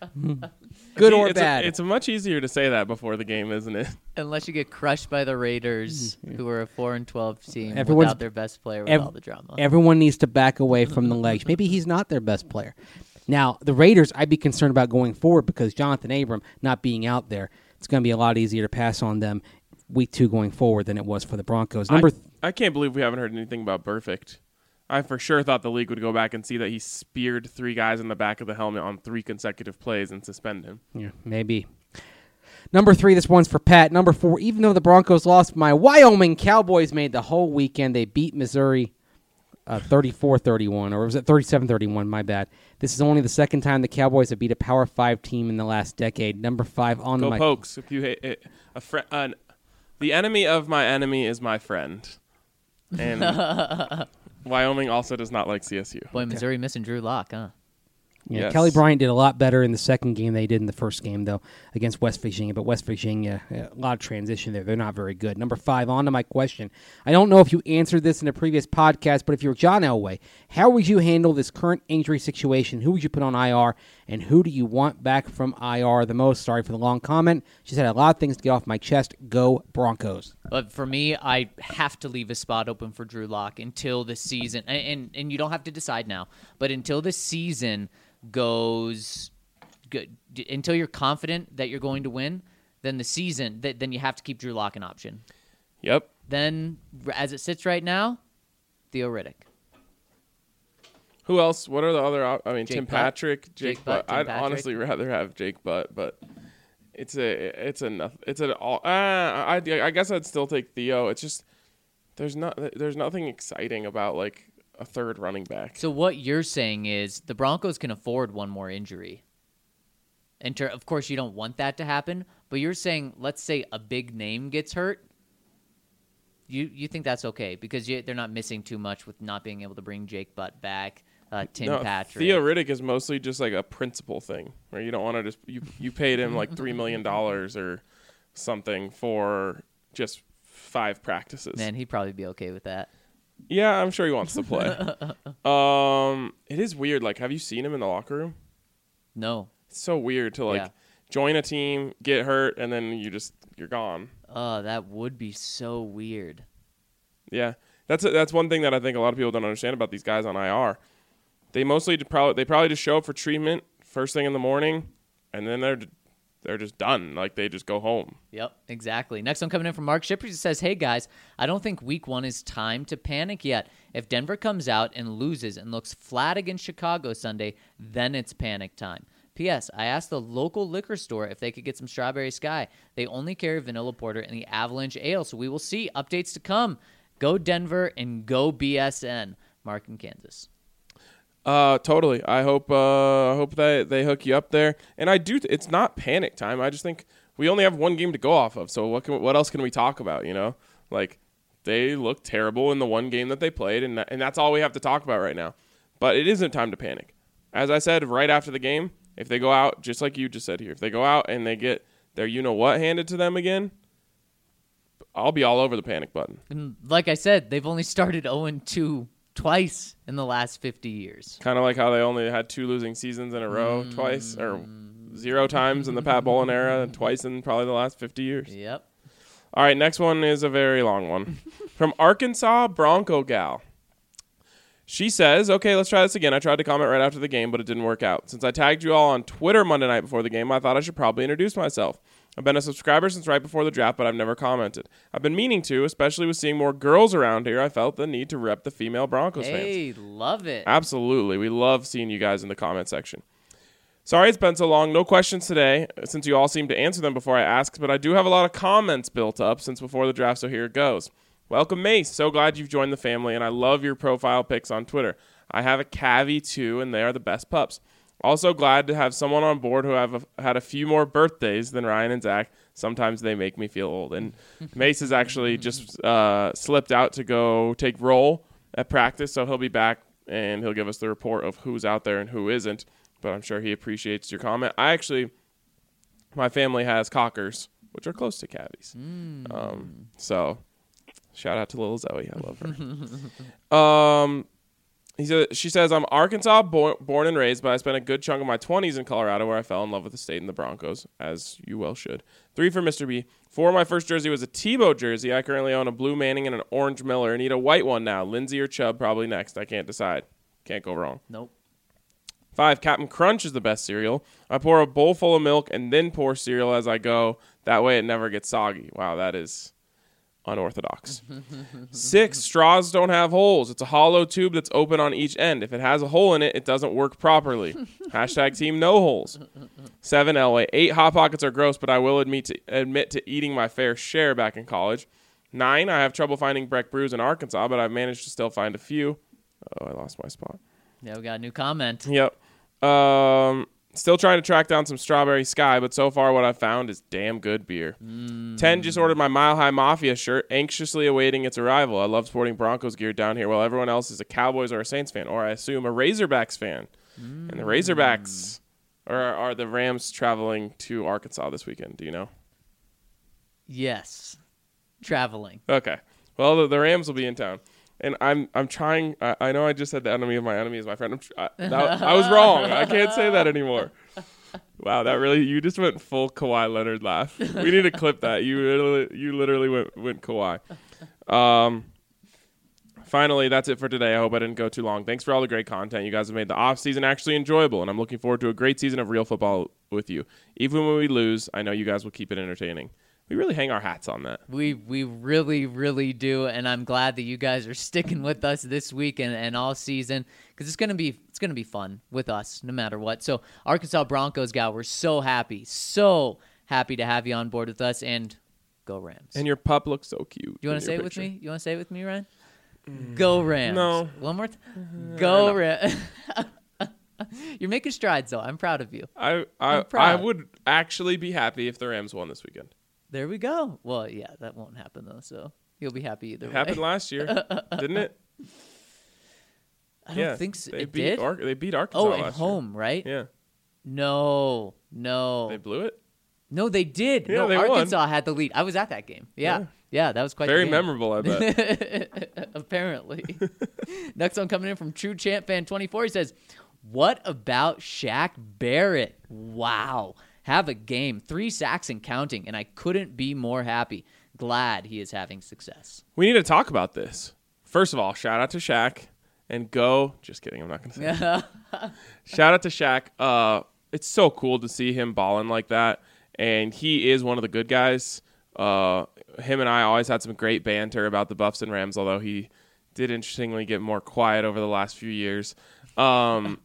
Good or it's bad. A, it's much easier to say that before the game, isn't it? Unless you get crushed by the Raiders, who are a four and twelve team Everyone's- without their best player with ev- all the drama. Everyone needs to back away from the legs. Maybe he's not their best player. Now, the Raiders, I'd be concerned about going forward because Jonathan Abram not being out there, it's going to be a lot easier to pass on them week two going forward than it was for the Broncos. Number I, th- I can't believe we haven't heard anything about Burfict. I for sure thought the league would go back and see that he speared three guys in the back of the helmet on three consecutive plays and suspend him. Yeah, maybe. Number three, this one's for Pat. Number four, even though the Broncos lost, my Wyoming Cowboys made the whole weekend. They beat Missouri uh, thirty-four thirty-one, or was it thirty-seven thirty-one? My bad. This is only the second time the Cowboys have beat a Power Five team in the last decade. Number five on Go my Pokes! If you hate it, a friend, uh, the enemy of my enemy is my friend, and Wyoming also does not like C S U. Boy, Missouri missing Drew Lock, huh? Yeah, Yes. Kelly Bryant did a lot better in the second game than they did in the first game, though, against West Virginia. But West Virginia, a lot of transition there. They're not very good. Number five, on to my question. I don't know if you answered this in a previous podcast, but if you're John Elway, how would you handle this current injury situation? Who would you put on I R, and who do you want back from I R the most? Sorry for the long comment. She said a lot of things to get off my chest. Go Broncos. But for me, I have to leave a spot open for Drew Lock until the season, and, and and you don't have to decide now, but until the season goes good, until you're confident that you're going to win, then the season, th- then you have to keep Drew Lock an option. Yep. Then, as it sits right now, Theo Riddick. Who else? What are the other? op- I mean, Jake Tim Butt. Patrick, Jake, Jake Butt, Butt. Tim I'd Patrick. honestly rather have Jake Butt, but it's a it's a it's an all. Uh, I I guess I'd still take Theo. It's just there's not there's nothing exciting about like a third running back. So what you're saying is the Broncos can afford one more injury. And ter- of course, you don't want that to happen, but you're saying, let's say a big name gets hurt. You you think that's okay because you, they're not missing too much with not being able to bring Jake Butt back, uh, Tim no, Patrick. Theo Riddick is mostly just like a principle thing where you don't want to just you you paid him like three million dollars or something for just five practices. Man, he'd probably be okay with that. Yeah, I'm sure he wants to play. um, it is weird. Like, have you seen him in the locker room? No. It's so weird to like Yeah. join a team, get hurt, and then you just you're gone. Oh, that would be so weird. Yeah, that's a, that's one thing that I think a lot of people don't understand about these guys on I R. They mostly probably they probably just show up for treatment first thing in the morning, and then they're they're just done. Like they just go home. Yep, exactly. Next one coming in from Mark Shippers. He says, hey, guys, I don't think week one is time to panic yet. If Denver comes out and loses and looks flat against Chicago Sunday, then it's panic time. P S. I asked the local liquor store if they could get some Strawberry Sky. They only carry Vanilla Porter and the Avalanche Ale, so we will see. Updates to come. Go Denver and go B S N. Mark in Kansas. Uh, totally. I hope uh, I hope that they hook you up there. And I do. Th- it's not panic time. I just think we only have one game to go off of. So what can, what else can we talk about, you know? Like, they looked terrible in the one game that they played, and that, and that's all we have to talk about right now. But it isn't time to panic. As I said right after the game, if they go out, just like you just said here, if they go out and they get their you-know-what handed to them again, I'll be all over the panic button. And like I said, they've only started oh and two twice in the last fifty years. Kind of like how they only had two losing seasons in a row mm. twice, or zero times in the Pat Bowlen era, and twice in probably the last fifty years. Yep. All right, next one is a very long one. From Arkansas Bronco Gal. She says, okay, let's try this again. I tried to comment right after the game, but it didn't work out. Since I tagged you all on Twitter Monday night before the game, I thought I should probably introduce myself. I've been a subscriber since right before the draft, but I've never commented. I've been meaning to, especially with seeing more girls around here. I felt the need to rep the female Broncos fans. Hey, love it. Absolutely. We love seeing you guys in the comment section. Sorry it's been so long. No questions today, since you all seem to answer them before I ask, but I do have a lot of comments built up since before the draft, so here it goes. Welcome, Mace. So glad you've joined the family, and I love your profile pics on Twitter. I have a Cavy, too, and they are the best pups. Also glad to have someone on board who have a, had a few more birthdays than Ryan and Zach. Sometimes they make me feel old. And Mace has actually just uh, slipped out to go take roll at practice, so he'll be back, and he'll give us the report of who's out there and who isn't. But I'm sure he appreciates your comment. I actually, my family has cockers, which are close to Cavies. Mm. Um, so shout out to little Zoe. I love her. um, he said, she says, I'm Arkansas born, born and raised, but I spent a good chunk of my twenties in Colorado where I fell in love with the state and the Broncos, as you well should. Three for Mister B. Four, my first jersey was a Tebow jersey. I currently own a blue Manning and an orange Miller. I need a white one now. Lindsey or Chubb probably next. I can't decide. Can't go wrong. Nope. Five, Captain Crunch is the best cereal. I pour a bowl full of milk and then pour cereal as I go. That way it never gets soggy. Wow, that is unorthodox. Six, straws don't have holes. It's a hollow tube that's open on each end. If it has a hole in it, it doesn't work properly. Hashtag team no holes. Seven, Elway. Eight, Hot Pockets are gross, but I will admit to, admit to eating my fair share back in college. Nine, I have trouble finding Breck Brews in Arkansas, but I've managed to still find a few. Oh, I lost my spot. Yeah, we got a new comment. Yep. Um, still trying to track down some Strawberry Sky, but so far what I've found is damn good beer. Mm. ten, just ordered my Mile High Mafia shirt, anxiously awaiting its arrival. I love sporting Broncos gear down here while everyone else is a Cowboys or a Saints fan, or I assume a Razorbacks fan. Mm. And the Razorbacks, or are the Rams traveling to Arkansas this weekend? Do you know? Yes. Traveling. Okay. Well, the, the Rams will be in town. And I'm I'm trying. I, I know I just said the enemy of my enemy is my friend. I'm tr- I, that, I was wrong. I can't say that anymore. Wow, that really you just went full Kawhi Leonard laugh. We need to clip that. You literally, you literally went went Kawhi. Um. Finally, that's it for today. I hope I didn't go too long. Thanks for all the great content. You guys have made the off season actually enjoyable, and I'm looking forward to a great season of real football with you. Even when we lose, I know you guys will keep it entertaining. We really hang our hats on that. We we really, really do, and I'm glad that you guys are sticking with us this week and, and all season because it's gonna be it's gonna be fun with us no matter what. So Arkansas Broncos gal, we're so happy, so happy to have you on board with us, and go Rams. And your pup looks so cute. You want to say it picture. with me? You want to say it with me, Ryan? Mm. Go Rams. No. One more time. Go Rams. You're making strides, though. I'm proud of you. I I, I would actually be happy if the Rams won this weekend. There we go. Well, yeah, that won't happen, though, so you'll be happy either it way. It happened last year, didn't it? I don't yeah, think so. They it beat did? Ar- they beat Arkansas Oh, last at home, year. right? Yeah. No, no. They blew it? No, they did. Yeah, no, they Arkansas won. had the lead. I was at that game. Yeah. Yeah, yeah that was quite very the game. memorable, I bet. Apparently. Next one coming in from True Champ Fan twenty-four. He says, what about Shaq Barrett? Wow. Have a game, three sacks and counting, and I couldn't be more happy. Glad he is having success. We need to talk about this. First of all, shout out to Shaq and go. Just kidding. I'm not going to say that. Shout out to Shaq. Uh, it's so cool to see him balling like that, and he is one of the good guys. Uh, him and I always had some great banter about the Buffs and Rams, although he did interestingly get more quiet over the last few years. Um,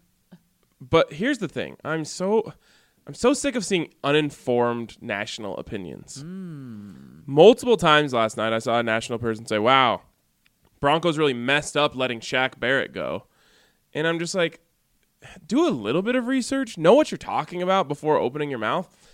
but here's the thing. I'm so... I'm so sick of seeing uninformed national opinions. Mm. Multiple times last night, I saw a national person say, wow, Broncos really messed up letting Shaq Barrett go. And I'm just like, do a little bit of research. Know what you're talking about before opening your mouth.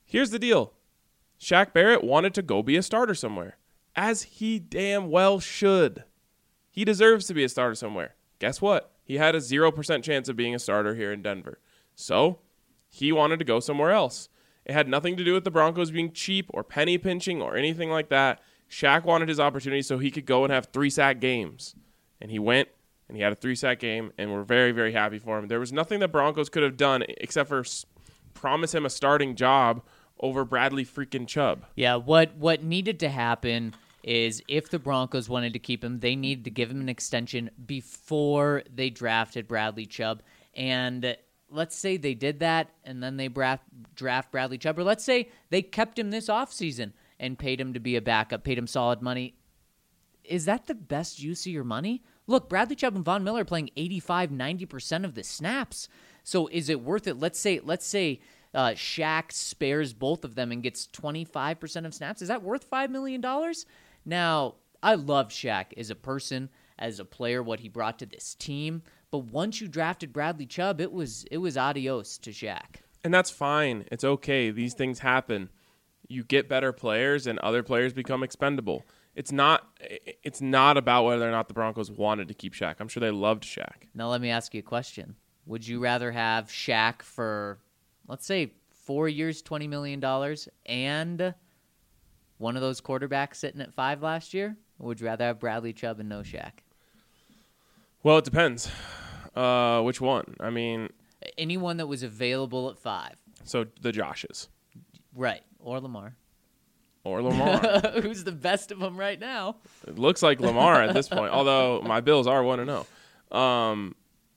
Here's the deal. Shaq Barrett wanted to go be a starter somewhere, as he damn well should. He deserves to be a starter somewhere. Guess what? He had a zero percent chance of being a starter here in Denver. So he wanted to go somewhere else. It had nothing to do with the Broncos being cheap or penny pinching or anything like that. Shaq wanted his opportunity so he could go and have three-sack games. And he went, and he had a three-sack game, and we're very, very happy for him. There was nothing that Broncos could have done except for s- promise him a starting job over Bradley freaking Chubb. Yeah, what what needed to happen is if the Broncos wanted to keep him, they needed to give him an extension before they drafted Bradley Chubb. And let's say they did that, and then they draft, draft Bradley Chubb, or let's say they kept him this offseason and paid him to be a backup, paid him solid money. Is that the best use of your money? Look, Bradley Chubb and Von Miller are playing eighty-five, ninety percent of the snaps. So is it worth it? Let's say let's say uh, Shaq spares both of them and gets twenty-five percent of snaps. Is that worth five million dollars? Now, I love Shaq as a person, as a player, what he brought to this team. But once you drafted Bradley Chubb, it was it was adios to Shaq. And that's fine. It's okay. These things happen. You get better players, and other players become expendable. It's not it's not about whether or not the Broncos wanted to keep Shaq. I'm sure they loved Shaq. Now let me ask you a question. Would you rather have Shaq for, let's say, four years, twenty million dollars, and one of those quarterbacks sitting at five last year? Or would you rather have Bradley Chubb and no Shaq? Well, it depends. Uh, which one? I mean, Anyone that was available at five. so the Joshes Right. Or Lamar. or Lamar. Who's the best of them right now? It looks like Lamar at this point, although my Bills are one and oh. Um,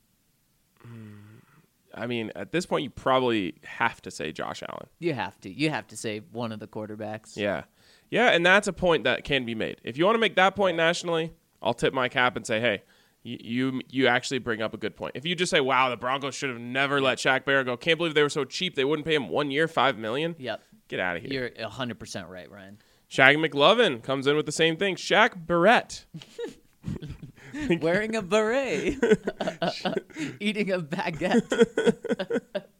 I mean, at this point, you probably have to say Josh Allen. You have to. You have to say one of the quarterbacks. Yeah. Yeah, and that's a point that can be made. If you want to make that point nationally, I'll tip my cap and say, hey, you you, you actually bring up a good point. If you just say, wow, the Broncos should have never let Shaq Barrett go. Can't believe they were so cheap. They wouldn't pay him one year, five million dollars. Yep. Get out of here. You're one hundred percent right, Ryan. Shaq McLovin comes in with the same thing. Shaq Barrett. Wearing a beret. Eating a baguette.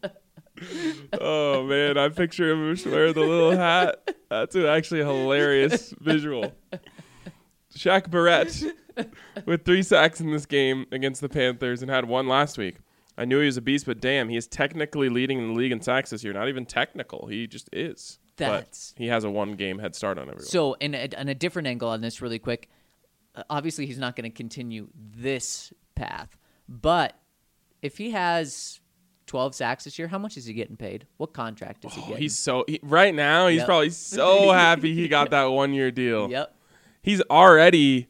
Oh, man, I picture him wearing the little hat. That's an actually a hilarious visual. Shaq Barrett with three sacks in this game against the Panthers and had one last week. I knew he was a beast, but damn, he is technically leading the league in sacks this year. Not even technical. He just is. That's But he has a one-game head start on everyone. So, in a, in a different angle on this really quick, uh, obviously he's not going to continue this path. But if he has twelve sacks this year, how much is he getting paid? What contract is he Oh, getting? he's so he, right now, he's Yep. probably so happy he got that one-year deal. Yep. He's already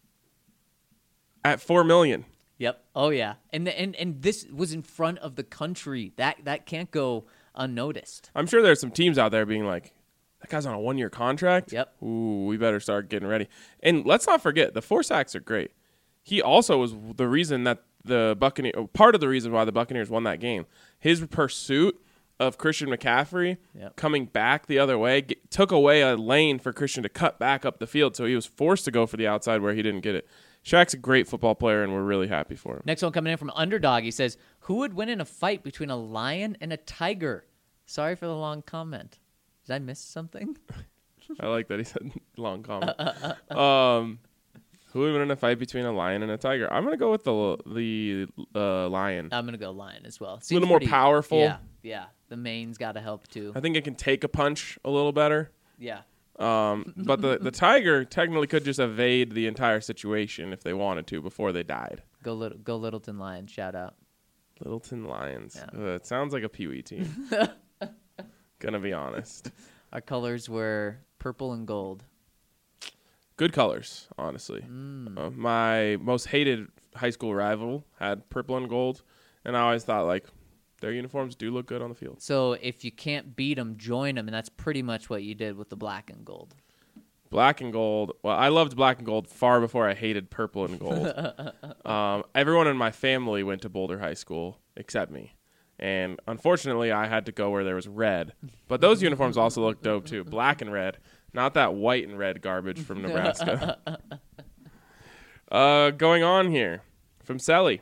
at four million dollars. Yep. Oh, yeah. And, the, and and this was in front of the country. That that can't go unnoticed. I'm sure there's some teams out there being like, that guy's on a one-year contract? Yep. Ooh, we better start getting ready. And let's not forget, the four sacks are great. He also was the reason that the Buccaneers, part of the reason why the Buccaneers won that game. His pursuit of Christian McCaffrey Yep. coming back the other way get, took away a lane for Christian to cut back up the field, so he was forced to go for the outside where he didn't get it. Shaq's a great football player, and we're really happy for him. Next one coming in from Underdog. He says, who would win in a fight between a lion and a tiger? Sorry for the long comment. Did I miss something? I like that he said long comment. Um, who would win in a fight between a lion and a tiger? I'm gonna go with the the uh, lion. I'm going to go lion as well. A little more powerful. Yeah, yeah. The mane's got to help too. I think it can take a punch a little better. Yeah. Um, but the, the tiger technically could just evade the entire situation if they wanted to before they died. Go little, go Littleton Lions. Shout out. Littleton Lions. Yeah. Uh, it sounds like a Pee Wee team. Gonna be honest. Our colors were purple and gold. Good colors, honestly. Uh, my most hated high school rival had purple and gold, and I always thought, like, their uniforms do look good on the field. So if you can't beat them, join them, and that's pretty much what you did with the black and gold. Black and gold. Well, I loved black and gold far before I hated purple and gold. um, everyone in my family went to Boulder High School except me. And unfortunately, I had to go where there was red. But those uniforms also look dope, too. Black and red. Not that white and red garbage from Nebraska. uh, going on here. From Selly.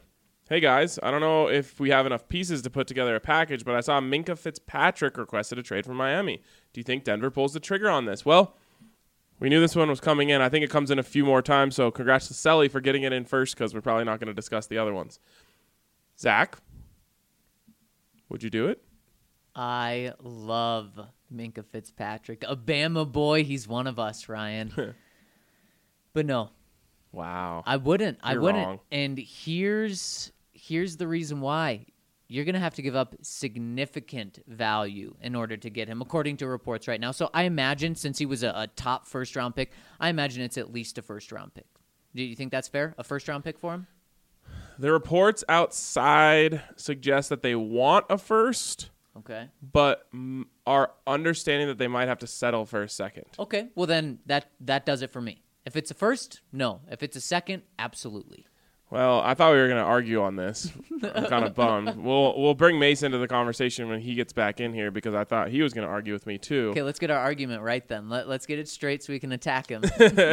Hey guys, I don't know if we have enough pieces to put together a package, but I saw Minkah Fitzpatrick requested a trade from Miami. Do you think Denver pulls the trigger on this? Well, we knew this one was coming in. I think it comes in a few more times, so congrats to Selly for getting it in first because we're probably not going to discuss the other ones. Zach, would you do it? I love Minkah Fitzpatrick. A Bama boy. He's one of us, Ryan. But no. Wow. I wouldn't. I You're wouldn't. wrong. And here's here's the reason why. You're going to have to give up significant value in order to get him, according to reports right now. So I imagine, since he was a, a top first-round pick, I imagine it's at least a first-round pick. Do you think that's fair? A first-round pick for him? The reports outside suggest that they want a first, Okay. but mm, are understanding that they might have to settle for a second. Okay. Well, then that, that does it for me. If it's a first, no. If it's a second, absolutely. Well, I thought we were going to argue on this. I'm kind of bummed. We'll we'll bring Mason into the conversation when he gets back in here because I thought he was going to argue with me too. Okay, let's get our argument right then. Let, let's get it straight so we can attack him.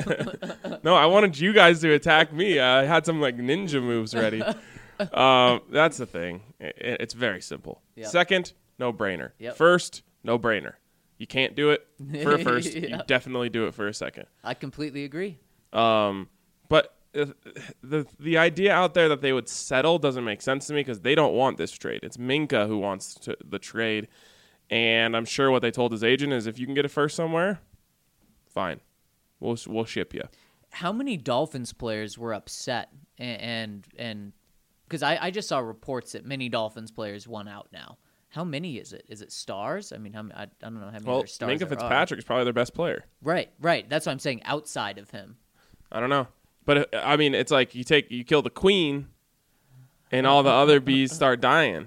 No, I wanted you guys to attack me. I had some like ninja moves ready. um, that's the thing. It, it's very simple. Yep. Second, no brainer. Yep. First, no brainer. You can't do it for a first. You Yep. definitely do it for a second. I completely agree. Um, but uh, the the idea out there that they would settle doesn't make sense to me because they don't want this trade. It's Minkah who wants to, the trade, and I'm sure what they told his agent is if you can get a first somewhere, fine, we'll we'll ship you. How many Dolphins players were upset and and because I, I just saw reports that many Dolphins players want out now. How many is it? Is it stars? I mean, how, I, I don't know how many Well, other stars Minkah there Fitzpatrick is probably their best player. are. Right, right. That's what I'm saying. Outside of him, I don't know, but uh, I mean, it's like you take you kill the queen, and all the other bees start dying.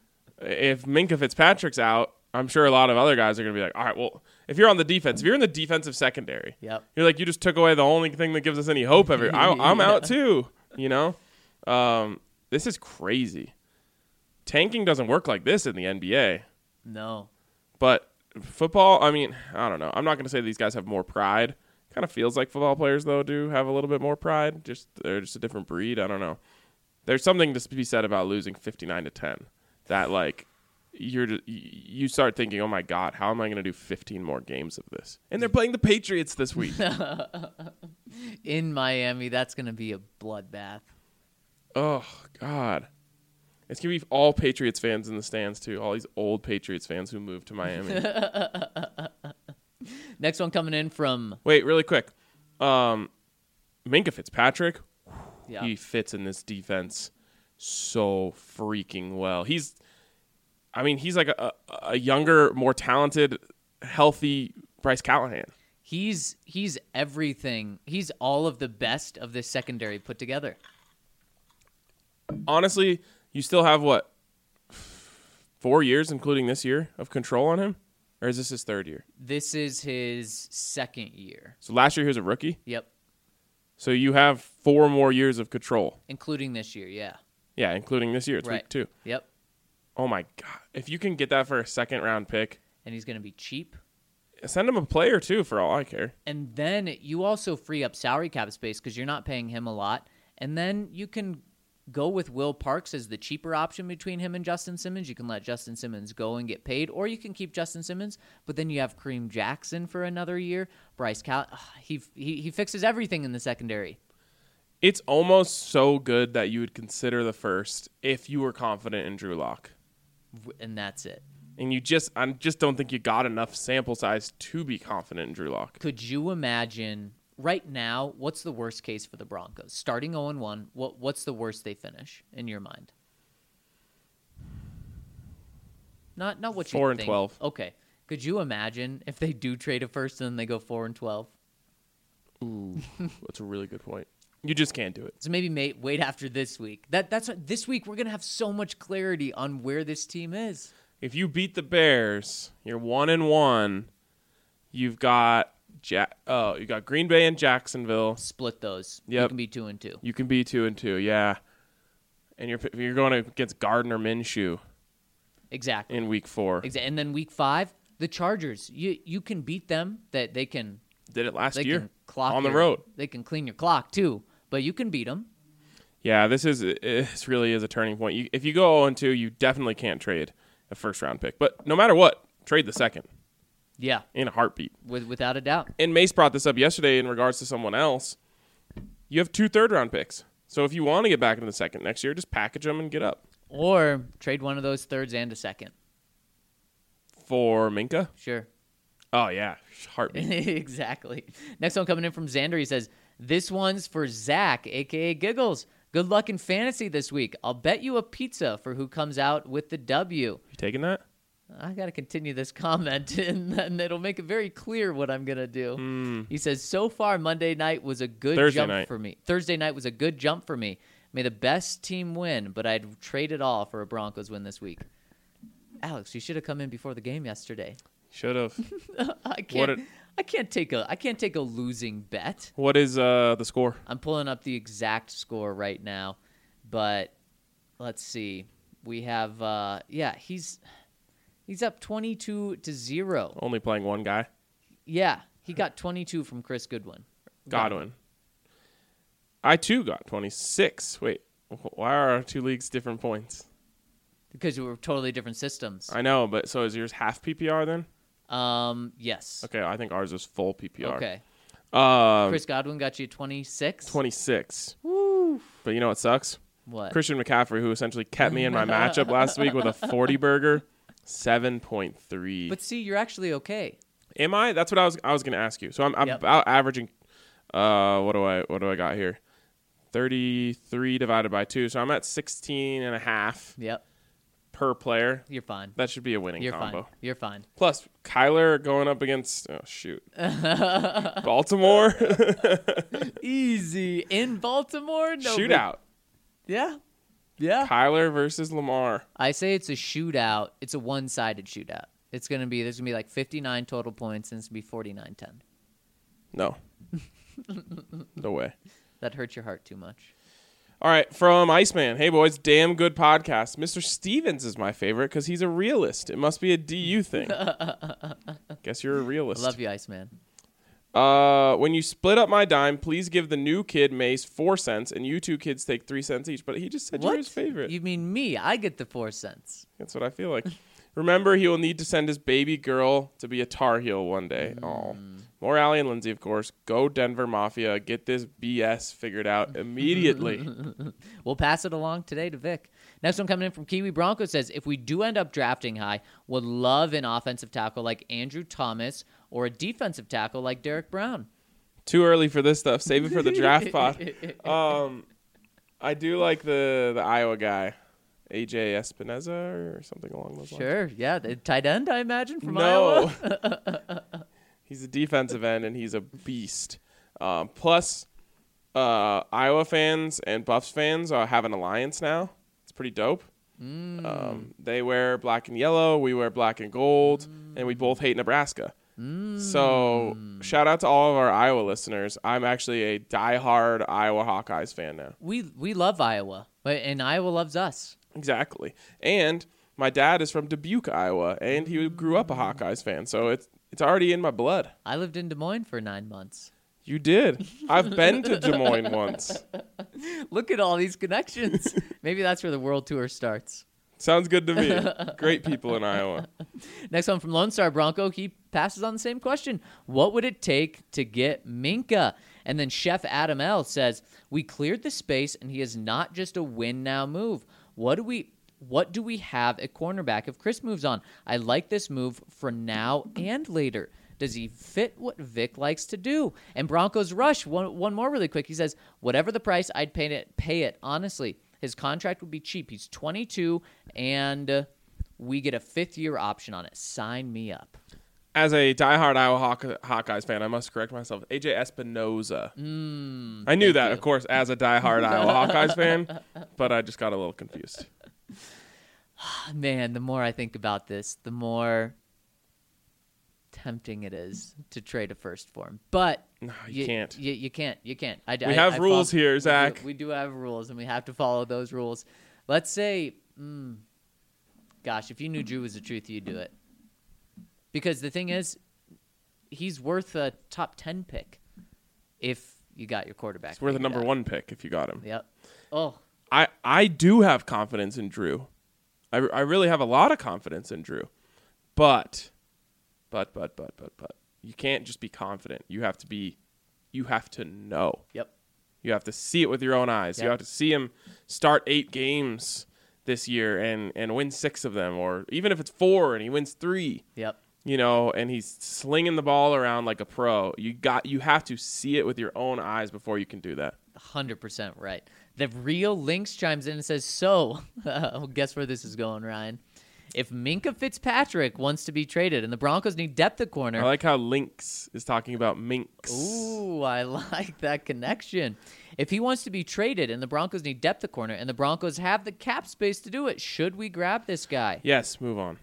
If Minkah Fitzpatrick's out, I'm sure a lot of other guys are going to be like, all right, well, if you're on the defense, if you're in the defensive secondary, Yep. you're like, you just took away the only thing that gives us any hope. Every I, I'm Yeah. out too, you know. Um, this is crazy. Tanking doesn't work like this in the N B A, no. but football, I mean, I don't know. I'm not going to say these guys have more pride. Kind of feels like football players, though, do have a little bit more pride. Just they're just a different breed. I don't know. There's something to be said about losing fifty-nine to ten. That like you're just, you start thinking, oh my God, how am I going to do fifteen more games of this? And they're playing the Patriots this week. In Miami, that's going to be a bloodbath. Oh God, it's gonna be all Patriots fans in the stands too. All these old Patriots fans who moved to Miami. Next one coming in from Wait, really quick. Um, Minkah Fitzpatrick, yeah. he fits in this defense so freaking well. He's, I mean, he's like a, a younger, more talented, healthy Bryce Callahan. He's he's everything. He's all of the best of this secondary put together. Honestly, you still have what, four years, including this year, of control on him? Or is this his third year? This is his second year. So last year he was a rookie? Yep. So you have four more years of control. Including this year, yeah. Yeah, including this year. It's Right. week two. Yep. Oh, my God. If you can get that for a second-round pick, And he's going to be cheap. send him a player, too, for all I care. And then you also free up salary cap space because you're not paying him a lot. And then you can go with Will Parks as the cheaper option between him and Justin Simmons. You can let Justin Simmons go and get paid, or you can keep Justin Simmons, but then you have Kareem Jackson for another year. Bryce Cal, ugh, he, he he fixes everything in the secondary. It's almost so good that you would consider the first if you were confident in Drew Lock. And that's it. And you just, I just don't think you got enough sample size to be confident in Drew Lock. Could you imagine right now, what's the worst case for the Broncos? Starting oh and one, what what's the worst they finish in your mind? Not not what you Four and think. twelve. Okay. Could you imagine if they do trade a first and then they go four and twelve? Ooh, that's a really good point. You just can't do it. So maybe mate, wait after this week. That that's what, this week we're gonna have so much clarity on where this team is. If you beat the Bears, you're one and one. You've got ja- oh, you got Green Bay and Jacksonville. Split those. Yep. You can be two and two. You can be two and two, yeah. And you're you're going against Gardner Minshew Exactly. in week four. Exa- And then week five, the Chargers. You you can beat them. That they can Did it last they year can clock on the your- road. They can clean your clock too, but you can beat them. Yeah, this is this really is a turning point. You, if you go oh and two, you definitely can't trade a first round pick. But no matter what, trade the second Yeah, in a heartbeat. with, without a doubt. And Mace brought this up yesterday in regards to someone else. You have two third round picks. So if you want to get back into the second next year, just package them and get up. Or trade one of those thirds and a second. For Minka? Sure. Oh, yeah. Heartbeat. Exactly. Next one coming in from Xander. He says, this one's for Zach, a k a. Giggles. Good luck in fantasy this week. I'll bet you a pizza for who comes out with the W. You taking that? I got to continue this comment, and then it'll make it very clear what I'm going to do. Mm. He says, so far, Monday night was a good Thursday jump night. for me. Thursday night was a good jump for me. May the best team win, but I'd trade it all for a Broncos win this week. Alex, you should have come in before the game yesterday. Should have. I can't. What I can't take a. I can't take a losing bet. What is uh, the score? I'm pulling up the exact score right now, but let's see. We have. Uh, yeah, he's he's up twenty-two to zero. Only playing one guy? Yeah, he got twenty-two from Chris Goodwin. Godwin. I, too, got twenty-six. Wait, why are our two leagues different points? Because we were totally different systems. I know, but so is yours half P P R then? Um. Yes. Okay, I think ours is full P P R. Okay. Um, Chris Godwin got you twenty-six. twenty-six. Woo. But you know what sucks? What? Christian McCaffrey, who essentially kept me in my matchup last week with a forty burger, seven point three. But see, you're actually okay. Am I? That's what I was. I was going to ask you. So I'm, I'm Yep. about averaging. Uh, what do I? What do I got here? thirty-three divided by two. So I'm at sixteen and a half Yep. per player. You're fine. That should be a winning You're combo. fine. You're fine. Plus, Kyler going up against. Oh shoot, Baltimore Easy in Baltimore. No big- shootout. Yeah. Yeah. Kyler versus Lamar. I say it's a shootout. It's a one-sided shootout. It's gonna be there's gonna be like fifty-nine total points, and it's gonna be forty-nine ten. No, no way. That hurts your heart too much. All right, from Iceman. Hey, boys, damn good podcast. Mister Stevens is my favorite because he's a realist. It must be a D U thing. Guess you're a I realist. love you, Iceman. Uh, when you split up my dime, please give the new kid Mace four cents, and you two kids take three cents each. But he just said What? you're his favorite. You mean me? I get the four cents. That's what I feel like. Remember, he will need to send his baby girl to be a Tar Heel one day. Oh, more Allie and Lindsay, of course. Go Denver Mafia. Get this B S figured out immediately. We'll pass it along today to Vic. Next one coming in from Kiwi Bronco says, if we do end up drafting high, would love an offensive tackle like Andrew Thomas or a defensive tackle like Derek Brown. Too early for this stuff. Save it for the draft pod. Um, I do like the the Iowa guy, A J Espinoza or something along those lines. Sure, yeah, the tight end, I imagine, from No. Iowa. He's a defensive end, and he's a beast. Um, plus, uh, Iowa fans and Buffs fans uh, have an alliance now. It's pretty dope. Mm. Um, they wear black and yellow. We wear black and gold, Mm. and we both hate Nebraska. Mm. So, shout out to all of our Iowa listeners. I'm actually a diehard Iowa Hawkeyes fan now. We we love Iowa, but and Iowa loves us. Exactly. And my dad is from Dubuque, Iowa, and he grew up a Hawkeyes fan. So it's it's already in my blood. I lived in Des Moines for nine months. You did. I've been to Des Moines once. Look at all these connections. Maybe that's where the world tour starts. Sounds good to me. Great people in Iowa. Next one from Lone Star Bronco. He passes on the same question. What would it take to get Minka? And then Chef Adam L says, we cleared the space, and he is not just a win now move. What do we what do we have at cornerback if Chris moves on? I like this move for now and later. Does he fit what Vic likes to do? And Broncos Rush, one, one more really quick. He says, whatever the price, I'd pay it, pay it, honestly. His contract would be cheap. He's twenty-two, and uh, we get a fifth-year option on it. Sign me up. As a diehard Iowa Hawk- Hawkeyes fan, I must correct myself. A J Espinoza. Mm, I knew thank that, you. of course, as a diehard Iowa Hawkeyes fan, but I just got a little confused. Man, the more I think about this, the more tempting it is to trade a first for him. But No, you can't. You, you can't. You can't. I, We I- have I rules follow- here, we do- Zach. We do have rules, and we have to follow those rules. Let's say, mm, gosh, if you knew Drew was the truth, you'd do it. Because the thing is, he's worth a top ten pick. If you got your quarterback. We're the figured number out. one pick if you got him. Yep. Oh, I, I do have confidence in Drew. I, I really have a lot of confidence in Drew. But, but, but, but, but, but, you can't just be confident. You have to be, you have to know. yep. You have to see it with your own eyes. Yep. You have to see him start eight games this year and, and win six of them. Or even if it's four and he wins three, Yep. you know, and he's slinging the ball around like a pro. You got, you have to see it with your own eyes before you can do that. one hundred percent right. The real Lynx chimes in and says, so, uh, guess where this is going, Ryan? If Minkah Fitzpatrick wants to be traded and the Broncos need depth at corner. I like how Lynx is talking about minks. Ooh, I like that connection. If he wants to be traded and the Broncos need depth at corner and the Broncos have the cap space to do it, should we grab this guy? Yes, move on.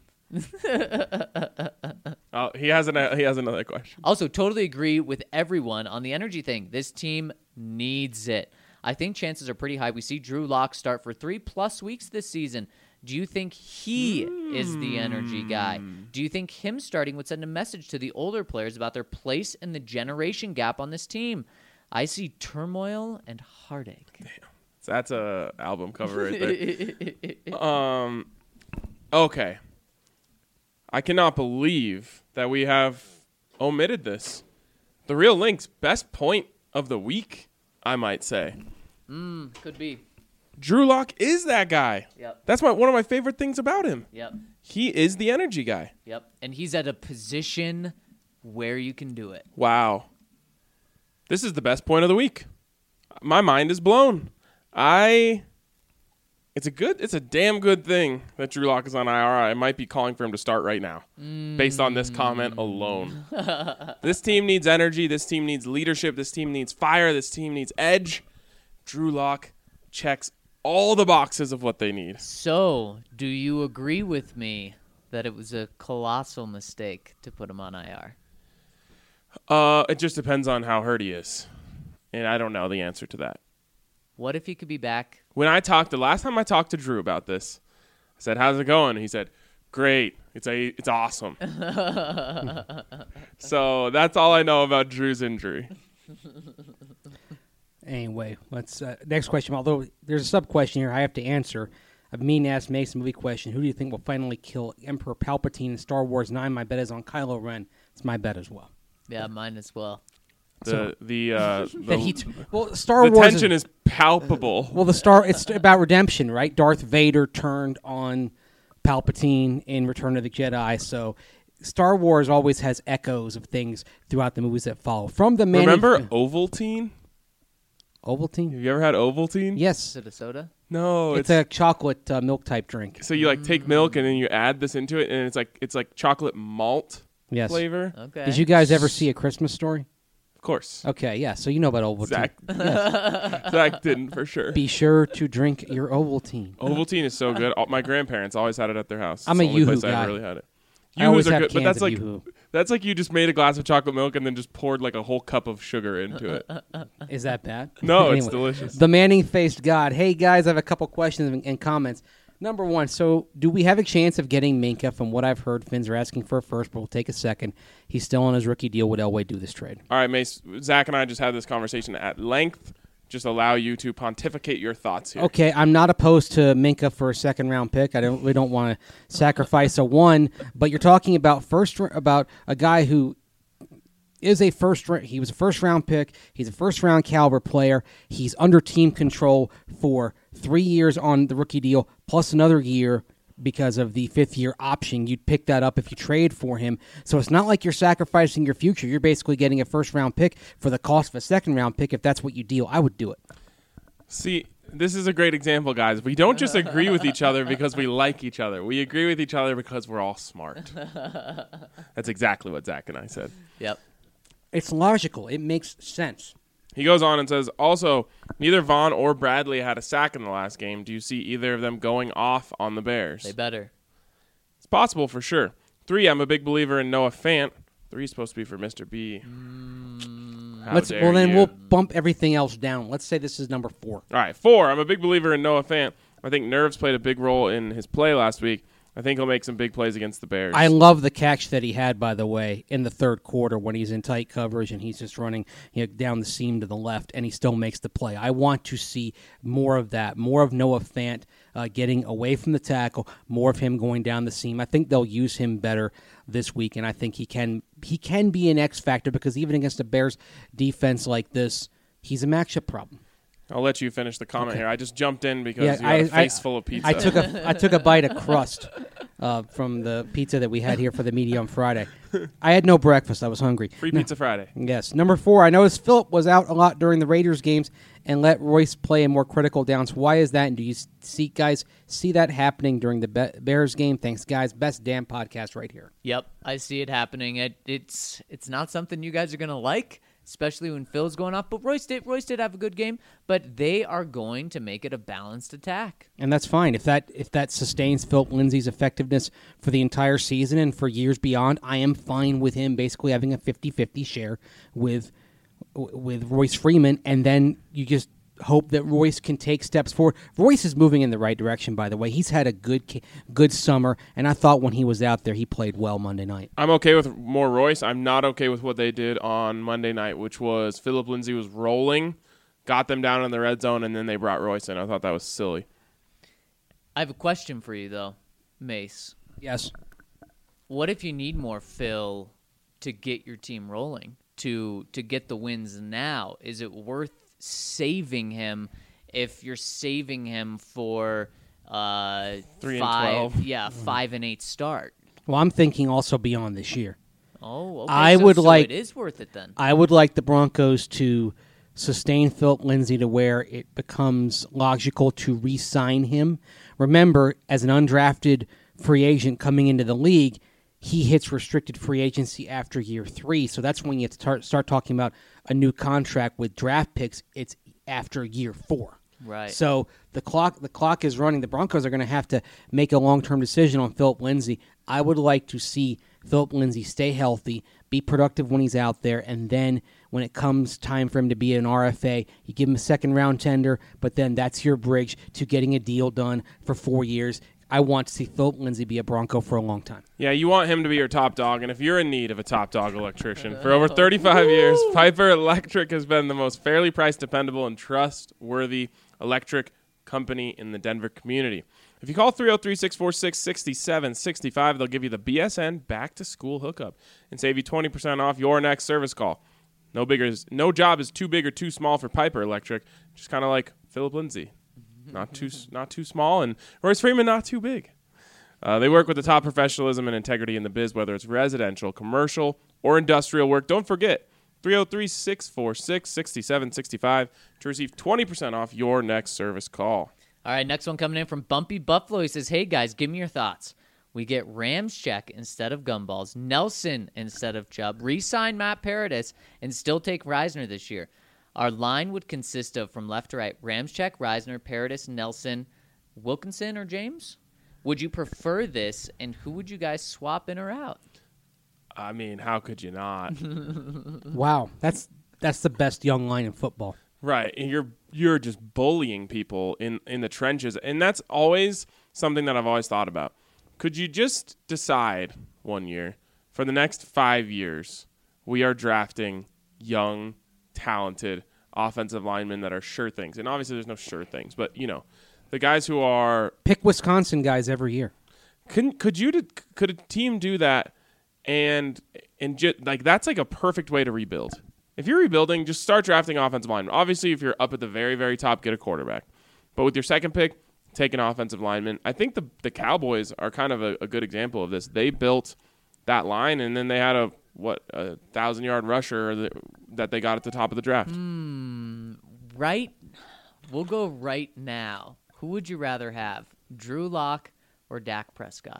oh, he has an he has another question. Also, totally agree with everyone on the energy thing. This team needs it. I think chances are pretty high. We see Drew Lock start for three plus weeks this season. Do you think he mm. is the energy guy? Do you think him starting would send a message to the older players about their place in the generation gap on this team? I see turmoil and heartache. Damn. So that's a album cover right there. um, okay. I cannot believe that we have omitted this. The Real Lynx, best point of the week, I might say. Mm, could be. Drew Lock is that guy. Yep. That's my one of my favorite things about him. Yep. He is the energy guy. Yep. And he's at a position where you can do it. Wow. This is the best point of the week. My mind is blown. I It's a good it's a damn good thing that Drew Lock is on I R. I might be calling for him to start right now. Mm. Based on this comment alone. This team needs energy, this team needs leadership, this team needs fire, this team needs edge. Drew Lock checks all the boxes of what they need. So, do you agree with me that it was a colossal mistake to put him on I R? Uh, it just depends on how hurt he is. And I don't know the answer to that. What if he could be back? When I talked, the last time I talked to Drew about this, I said, how's it going? He said, great. It's a, it's awesome. So that's all I know about Drew's injury. Anyway, let's uh, next question. Although there's a sub question here, I have to answer. A mean ass Mason movie question. Who do you think will finally kill Emperor Palpatine in Star Wars nine? My bet is on Kylo Ren. It's my bet as well. Yeah, mine as well. The So- the uh, the, That he t- well, Star the Wars tension is palpable. well, the Star it's about redemption, right? Darth Vader turned on Palpatine in Return of the Jedi, so Star Wars always has echoes of things throughout the movies that follow. From the many Remember Ovaltine? Ovaltine? Have you ever had Ovaltine? Yes, Is it a soda? No, it's, it's, a chocolate uh, milk type drink. so you like take milk and then you add this into it, and it's like it's like chocolate malt Yes. flavor. Okay. Did you guys ever see A Christmas Story? Of course. Okay, yeah. So you know about Ovaltine. Zach, Yes. Zach didn't for sure. Be sure to drink your Ovaltine. Ovaltine is so good. All, my grandparents always had it at their house. I'm It's a the only Yoo-hoo place I guy. ever really had it. I always Yoo-hoos are have good, but cans that's of like Yoo-hoo. that's like you just made a glass of chocolate milk and then just poured like a whole cup of sugar into it. Is that bad? No, it's Anyway, delicious. The Manning-faced God. Hey, guys, I have a couple questions and, and comments. Number one, so do we have a chance of getting Minkah? From what I've heard, Finns are asking for a first, but we'll take a second. He's still on his rookie deal. Would Elway do this trade? All right, Mace. Zach and I just had this conversation at length. Just allow you to pontificate your thoughts here. Okay, I'm not opposed to Minkah for a second-round pick. I don't. We don't want to sacrifice a one, but you're talking about first about a guy who is a first. He was a first-round pick. He's a first-round caliber player. He's under team control for three years on the rookie deal, plus another year because of the fifth-year option. You'd pick that up if you trade for him. So it's not like you're sacrificing your future. You're basically getting a first-round pick for the cost of a second-round pick. If that's what you deal, I would do it. See, this is a great example, guys. We don't just agree with each other because we like each other. We agree with each other because we're all smart. That's exactly what Zach and I said. Yep. It's logical. It makes sense. He goes on and says, also, neither Vaughn or Bradley had a sack in the last game. Do you see either of them going off on the Bears? They better. It's possible for sure. Three, I'm a big believer in Noah Fant. Three is supposed to be for Mister B. How Let's dare well then you. we'll bump everything else down. Let's say this is number four. All right, four, I'm a big believer in Noah Fant. I think nerves played a big role in his play last week. I think he'll make some big plays against the Bears. I love the catch that he had, by the way, in the third quarter when he's in tight coverage and he's just running you know, down the seam to the left, and he still makes the play. I want to see more of that, more of Noah Fant uh, getting away from the tackle, more of him going down the seam. I think they'll use him better this week, and I think he can he can be an X factor because even against a Bears defense like this, he's a matchup problem. I'll let you finish the comment Okay. here. I just jumped in because Yeah, you had a I- face I- full of pizza. I took a I took a bite of crust uh, from the pizza that we had here for the media on Friday. I had no breakfast. I was hungry. Free No- Pizza Friday. Yes. Number four, I noticed Phillip was out a lot during the Raiders games and let Royce play in more critical downs. Why is that? And do you see guys see that happening during the Be- Bears game? Thanks, guys. Best damn podcast right here. Yep, I see it happening. It, it's it's not something you guys are gonna like, especially when Phil's going off. But Royce did Royce did have a good game. But they are going to make it a balanced attack. And that's fine. If that if that sustains Philip Lindsay's effectiveness for the entire season and for years beyond, I am fine with him basically having a fifty-fifty share with with Royce Freeman, and then you just hope that Royce can take steps forward. Royce is moving in the right direction, by the way. He's had a good ca- good summer, and I thought when he was out there, he played well Monday night. I'm okay with more Royce. I'm not okay with what they did on Monday night, which was Philip Lindsay was rolling, got them down in the red zone, and then they brought Royce in. I thought that was silly. I have a question for you though, Mace. Yes. What if you need more Phil to get your team rolling, to to get the wins now? Is it worth saving him if you're saving him for uh, Three and five, twelve. yeah, five and eight start? Well, I'm thinking also beyond this year. Oh, okay. I so, would so like- it is worth it then. I would like the Broncos to sustain Philip Lindsay to where it becomes logical to re-sign him. Remember, as an undrafted free agent coming into the league, he hits restricted free agency after year three. So that's when you have to start, start talking about a new contract with draft picks. It's after year four. Right. So the clock the clock is running. The Broncos are going to have to make a long-term decision on Philip Lindsay. I would like to see Philip Lindsay stay healthy, be productive when he's out there, and then when it comes time for him to be an R F A, you give him a second-round tender, but then that's your bridge to getting a deal done for four years. I want to see Philip Lindsay be a Bronco for a long time. Yeah, you want him to be your top dog, and if you're in need of a top dog electrician, for over thirty-five years, Piper Electric has been the most fairly priced, dependable, and trustworthy electric company in the Denver community. If you call three oh three, six four six, six seven six five, they'll give you the B S N back-to-school hookup and save you twenty percent off your next service call. No bigger, is, no job is too big or too small for Piper Electric, just kind of like Philip Lindsay. Not too not too small, and Royce Freeman not too big. Uh, they work with the top professionalism and integrity in the biz, whether it's residential, commercial, or industrial work. Don't forget, three oh three, six four six, six seven six five to receive twenty percent off your next service call. All right, next one coming in from Bumpy Buffalo. He says, hey, guys, give me your thoughts. We get Rams check instead of Gumballs, Nelson instead of Chubb, re-sign Matt Paradis, and still take Reisner this year. Our line would consist of, from left to right, Ramczyk, Reisner, Paradis, Nelson, Wilkinson, or James? Would you prefer this, and who would you guys swap in or out? I mean, how could you not? Wow, that's that's the best young line in football. Right, and you're you're just bullying people in, in the trenches, and that's always something that I've always thought about. Could you just decide one year, for the next five years, we are drafting young, talented offensive linemen that are sure things, and obviously there's no sure things, but you know, the guys who are Pick Wisconsin guys every year. could could you could a team do that, and and just, like that's like a perfect way to rebuild. If you're rebuilding, just start drafting offensive linemen. Obviously, if you're up at the very very top, get a quarterback, but with your second pick, take an offensive lineman. I think the the Cowboys are kind of a, a good example of this. They built that line, and then they had a what a thousand yard rusher that, that they got at the top of the draft. Hmm, right? We'll go right now. Who would you rather have, Drew Lock or Dak Prescott?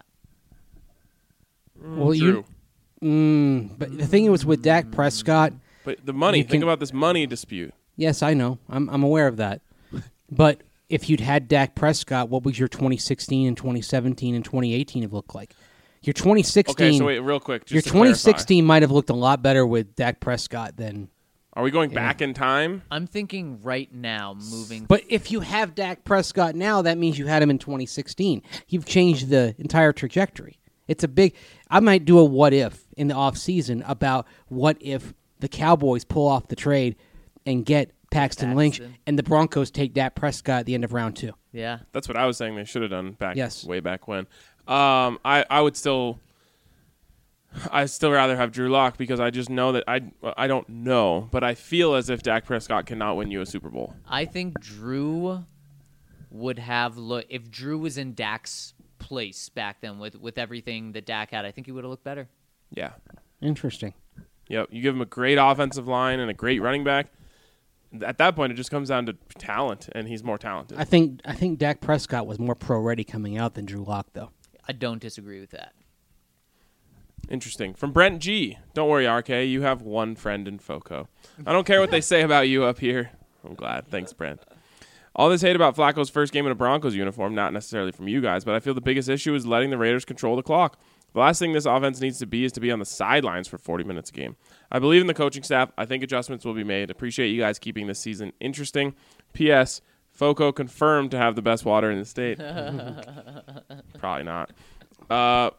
Well, True. you. Mm, but the thing was with Dak Prescott. But the money, You think can- about this money dispute. Yes, I know. I'm I'm aware of that. But if you'd had Dak Prescott, what would your twenty sixteen and twenty seventeen and twenty eighteen have looked like? Your twenty sixteen. Okay, so wait, real quick. Just your to twenty clarify. sixteen might have looked a lot better with Dak Prescott than. Are we going back in time? I'm thinking right now, moving. But if you have Dak Prescott now, that means you had him in twenty sixteen. You've changed the entire trajectory. It's a big – I might do a what-if in the offseason about what if the Cowboys pull off the trade and get Paxton, Paxton. Lynch and the Broncos take Dak Prescott at the end of round two. Yeah. That's what I was saying they should have done back Yes. way back when. Um, I, I would still – I'd still rather have Drew Lock because I just know that I I don't know, but I feel as if Dak Prescott cannot win you a Super Bowl. I think Drew would have look if Drew was in Dak's place back then with, with everything that Dak had. I think he would have looked better. Yeah. Interesting. Yep. You give him a great offensive line and a great running back. At that point, it just comes down to talent, and he's more talented. I think I think Dak Prescott was more pro-ready coming out than Drew Lock, though. I don't disagree with that. Interesting. From Brent G. Don't worry, R K. You have one friend in FOCO. I don't care what they say about you up here. I'm glad. Thanks, Brent. All this hate about Flacco's first game in a Broncos uniform, not necessarily from you guys, but I feel the biggest issue is letting the Raiders control the clock. The last thing this offense needs to be is to be on the sidelines for forty minutes a game. I believe in the coaching staff. I think adjustments will be made. Appreciate you guys keeping this season interesting. P S. FOCO confirmed to have the best water in the state. Probably not. Uh...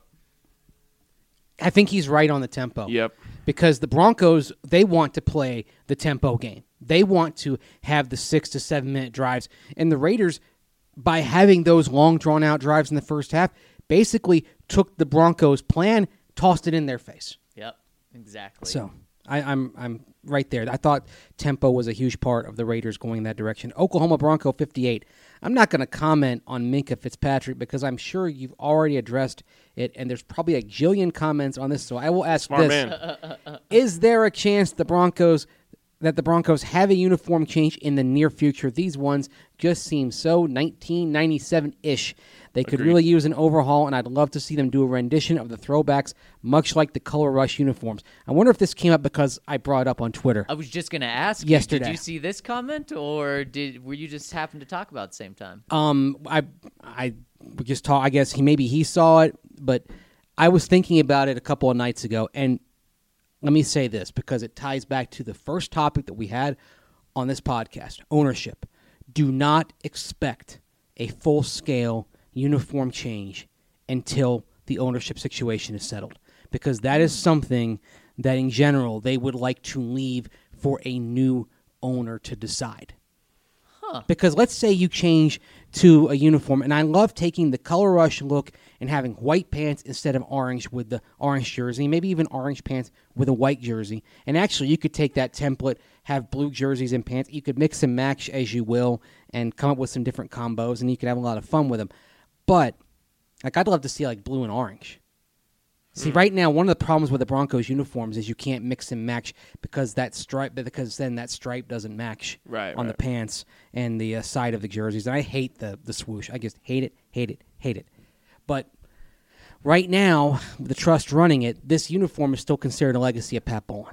I think he's right on the tempo. Yep. Because the Broncos, they want to play the tempo game. They want to have the six to seven minute drives. And the Raiders, by having those long, drawn-out drives in the first half, basically took the Broncos' plan, tossed it in their face. Yep, exactly. So I, I'm I'm right there. I thought tempo was a huge part of the Raiders going in that direction. Oklahoma Bronco fifty-eight. I'm not going to comment on Minkah Fitzpatrick because I'm sure you've already addressed it, and there's probably a jillion comments on this. So I will ask Smart this: man. Is there a chance the Broncos that the Broncos have a uniform change in the near future? These ones just seem so nineteen ninety-seven-ish. They could Agreed. really use an overhaul, and I'd love to see them do a rendition of the throwbacks, much like the Color Rush uniforms. I wonder if this came up because I brought it up on Twitter. I was just going to ask you, Yesterday. did you see this comment, or did were you just happen to talk about it at the same time? Um, I, I just talk. I guess he maybe he saw it, but I was thinking about it a couple of nights ago, and let me say this because it ties back to the first topic that we had on this podcast: ownership. Do not expect a full-scale uniform change until the ownership situation is settled, because that is something that, in general, they would like to leave for a new owner to decide. Huh. Because let's say you change to a uniform, and I love taking the Color Rush look and having white pants instead of orange with the orange jersey, maybe even orange pants with a white jersey. And actually, you could take that template, have blue jerseys and pants. You could mix and match as you will and come up with some different combos, and you could have a lot of fun with them. But like, I'd love to see like blue and orange. See, right now, one of the problems with the Broncos uniforms is you can't mix and match because that stripe, because then that stripe doesn't match Right, on right. the pants and the uh, side of the jerseys. And I hate the the swoosh. I just hate it, hate it, hate it. But right now, the trust running it, this uniform is still considered a legacy of Pat Bowlen.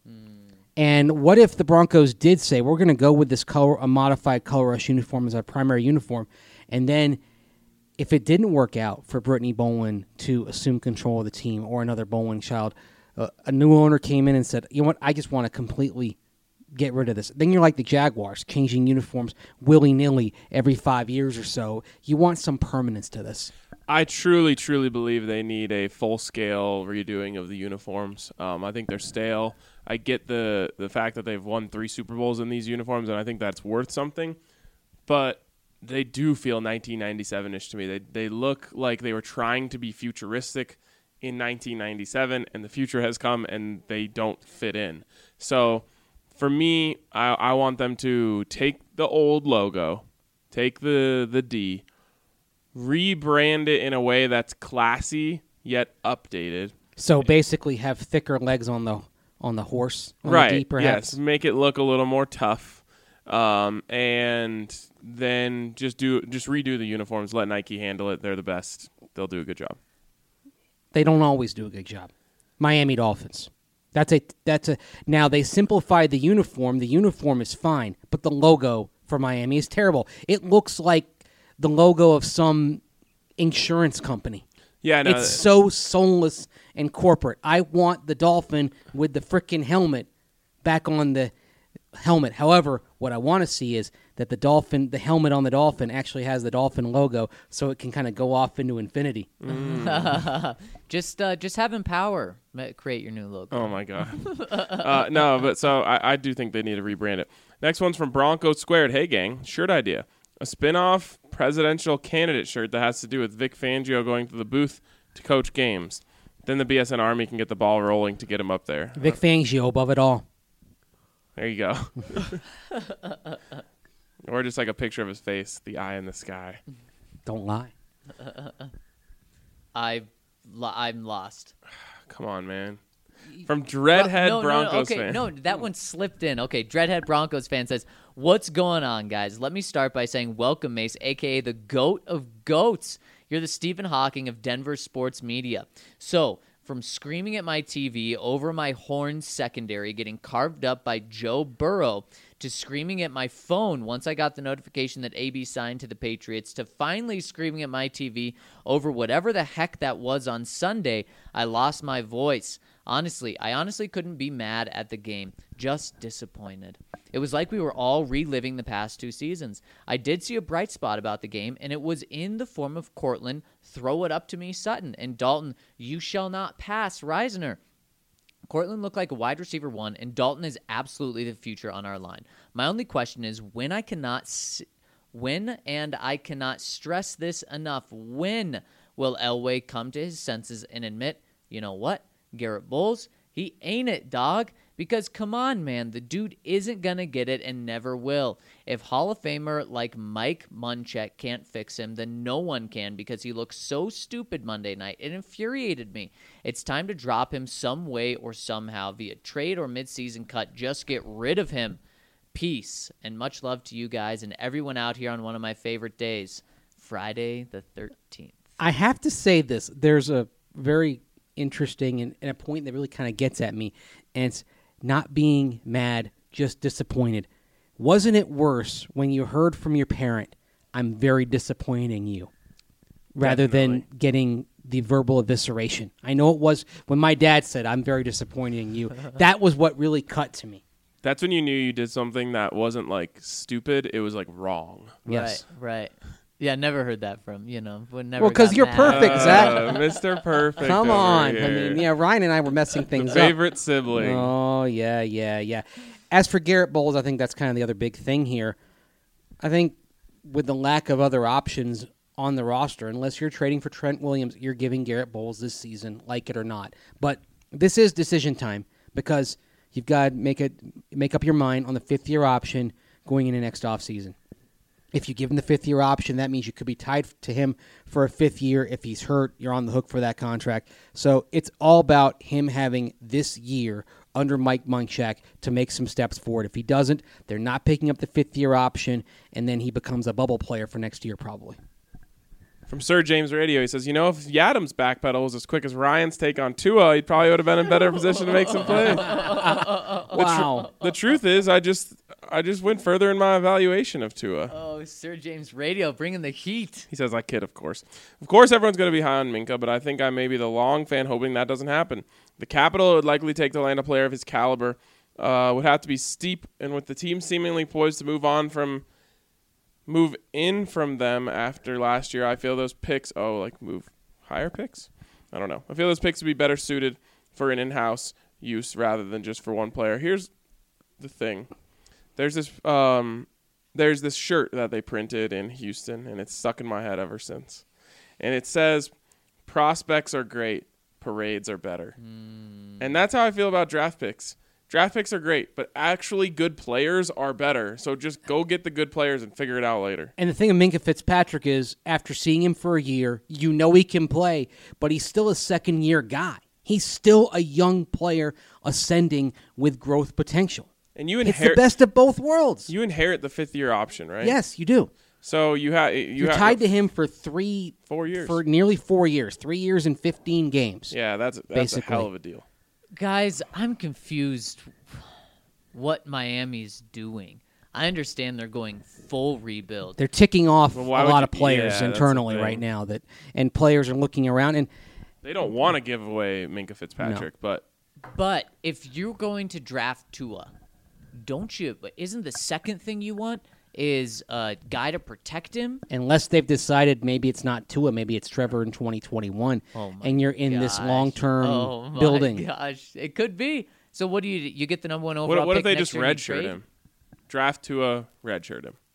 And what if the Broncos did say, we're going to go with this color, a modified Color Rush uniform as our primary uniform, and then if it didn't work out for Brittany Bowlen to assume control of the team or another Bowlen child, uh, a new owner came in and said, you know what, I just want to completely get rid of this. Then you're like the Jaguars, changing uniforms willy-nilly every five years or so. You want some permanence to this. I truly, truly believe they need a full-scale redoing of the uniforms. Um, I think they're stale. I get the the fact that they've won three Super Bowls in these uniforms, and I think that's worth something. But they do feel nineteen ninety-seven-ish to me. They they look like they were trying to be futuristic in nineteen ninety-seven, and the future has come, and they don't fit in. So for me, I, I want them to take the old logo, take the the D, rebrand it in a way that's classy yet updated. So basically have thicker legs on the on the horse, on Right, the D, perhaps. yes. Make it look a little more tough. Um, and then just do just redo the uniforms. Let Nike handle it. They're the best. They'll do a good job. They don't always do a good job. Miami Dolphins. That's a that's a now they simplified the uniform. The uniform is fine, but the logo for Miami is terrible. It looks like the logo of some insurance company. Yeah, no, It's so soulless and corporate. I want the dolphin with the frickin' helmet back on the helmet. However, what I want to see is that the dolphin, the helmet on the dolphin actually has the dolphin logo, so it can kind of go off into infinity. Mm. just uh, just having power create your new logo. Oh my god. uh, no, but so I, I do think they need to rebrand it. Next one's from Bronco Squared. Hey gang, shirt idea: a spin-off presidential candidate shirt that has to do with Vic Fangio going to the booth to coach games. Then the B S N Army can get the ball rolling to get him up there. Vic Fangio above it all. There you go. Or just like a picture of his face, the eye in the sky. Don't lie. I, I'm lost. Come on, man. From Dreadhead no, Broncos no, okay, fan. No, that one slipped in. Okay, Dreadhead Broncos fan says, what's going on, guys? Let me start by saying welcome, Mace, a k a the GOAT of GOATs. You're the Stephen Hawking of Denver sports media. So, from screaming at my T V over my horn secondary getting carved up by Joe Burrow to screaming at my phone once I got the notification that A B signed to the Patriots to finally screaming at my T V over whatever the heck that was on Sunday, I lost my voice. Honestly, I honestly couldn't be mad at the game, just disappointed. It was like we were all reliving the past two seasons. I did see a bright spot about the game, and it was in the form of Cortland, throw it up to me, Sutton, and Dalton, you shall not pass, Reisner. Cortland looked like a wide receiver one, and Dalton is absolutely the future on our line. My only question is when I cannot, s- when and I cannot stress this enough, when will Elway come to his senses and admit, you know what, Garrett Bowles, he ain't it, dog. Because, come on, man, the dude isn't going to get it and never will. If Hall of Famer like Mike Munchak can't fix him, then no one can because he looked so stupid Monday night. It infuriated me. It's time to drop him some way or somehow via trade or midseason cut. Just get rid of him. Peace, and much love to you guys and everyone out here on one of my favorite days, Friday the thirteenth. I have to say this. There's a very interesting and, and a point that really kind of gets at me, and it's not being mad, just disappointed. Wasn't it worse when you heard from your parent, I'm very disappointed in you, rather Definitely. than getting the verbal evisceration? I know it was when my dad said, I'm very disappointed in you. That was what really cut to me. That's when you knew you did something that wasn't like stupid. It was like wrong. Yes. Right, right. Yeah, never heard that from, you know. Would never Well, 'cause got you're mad. perfect, Zach. Uh, Mister Perfect. Come over on. here. I mean, yeah, Ryan and I were messing things up. Favorite sibling. Oh, yeah, yeah, yeah. As for Garrett Bowles, I think that's kind of the other big thing here. I think with the lack of other options on the roster, unless you're trading for Trent Williams, you're giving Garrett Bowles this season, like it or not. But this is decision time because you've got to make, it, make up your mind on the fifth-year option going into next offseason. If you give him the fifth-year option, that means you could be tied to him for a fifth year. If he's hurt, you're on the hook for that contract. So it's all about him having this year under Mike Munchak to make some steps forward. If he doesn't, they're not picking up the fifth-year option, and then he becomes a bubble player for next year probably. From Sir James Radio, he says, you know, if Yadam's backpedal was as quick as Ryan's take on Tua, he probably would have been in better position to make some plays. Wow. The truth is, I just I just went further in my evaluation of Tua. Oh, Sir James Radio, bringing the heat. He says, I kid, of course. Of course, everyone's going to be high on Minka, but I think I may be the long fan hoping that doesn't happen. The capital it would likely take to land a player of his caliber uh, would have to be steep, and with the team seemingly poised to move on from, move in from them after last year, I feel those picks, oh, like move higher picks? I don't know. I feel those picks would be better suited for an in-house use rather than just for one player. Here's the thing. There's this um, there's this shirt that they printed in Houston, and it's stuck in my head ever since. And it says, prospects are great, parades are better. Mm. And that's how I feel about draft picks. Draft picks are great, but actually good players are better. So just go get the good players and figure it out later. And the thing of Minka Fitzpatrick is, after seeing him for a year, you know he can play, but he's still a second-year guy. He's still a young player ascending with growth potential. And you It's inherit the best of both worlds. You inherit the fifth year option, right? Yes, you do. So you have you You're have tied to him for three, four years, for nearly four years, three years and fifteen games. Yeah, that's that's basically a hell of a deal. Guys, I'm confused what Miami's doing. I understand they're going full rebuild. They're ticking off Well, a why lot would of you- players yeah, that's the internally thing. right now, that and players are looking around. And They don't want to give away Minka Fitzpatrick, but But if you're going to draft Tua, don't you? Isn't the second thing you want is a guy to protect him? Unless they've decided maybe it's not Tua, maybe it's Trevor in twenty twenty-one, Oh my and you're in this gosh. long-term oh my building. Gosh, it could be. So what do you you get the number one What, overall? what if pick they next just year and you redshirt trade? him? Draft Tua, redshirt him.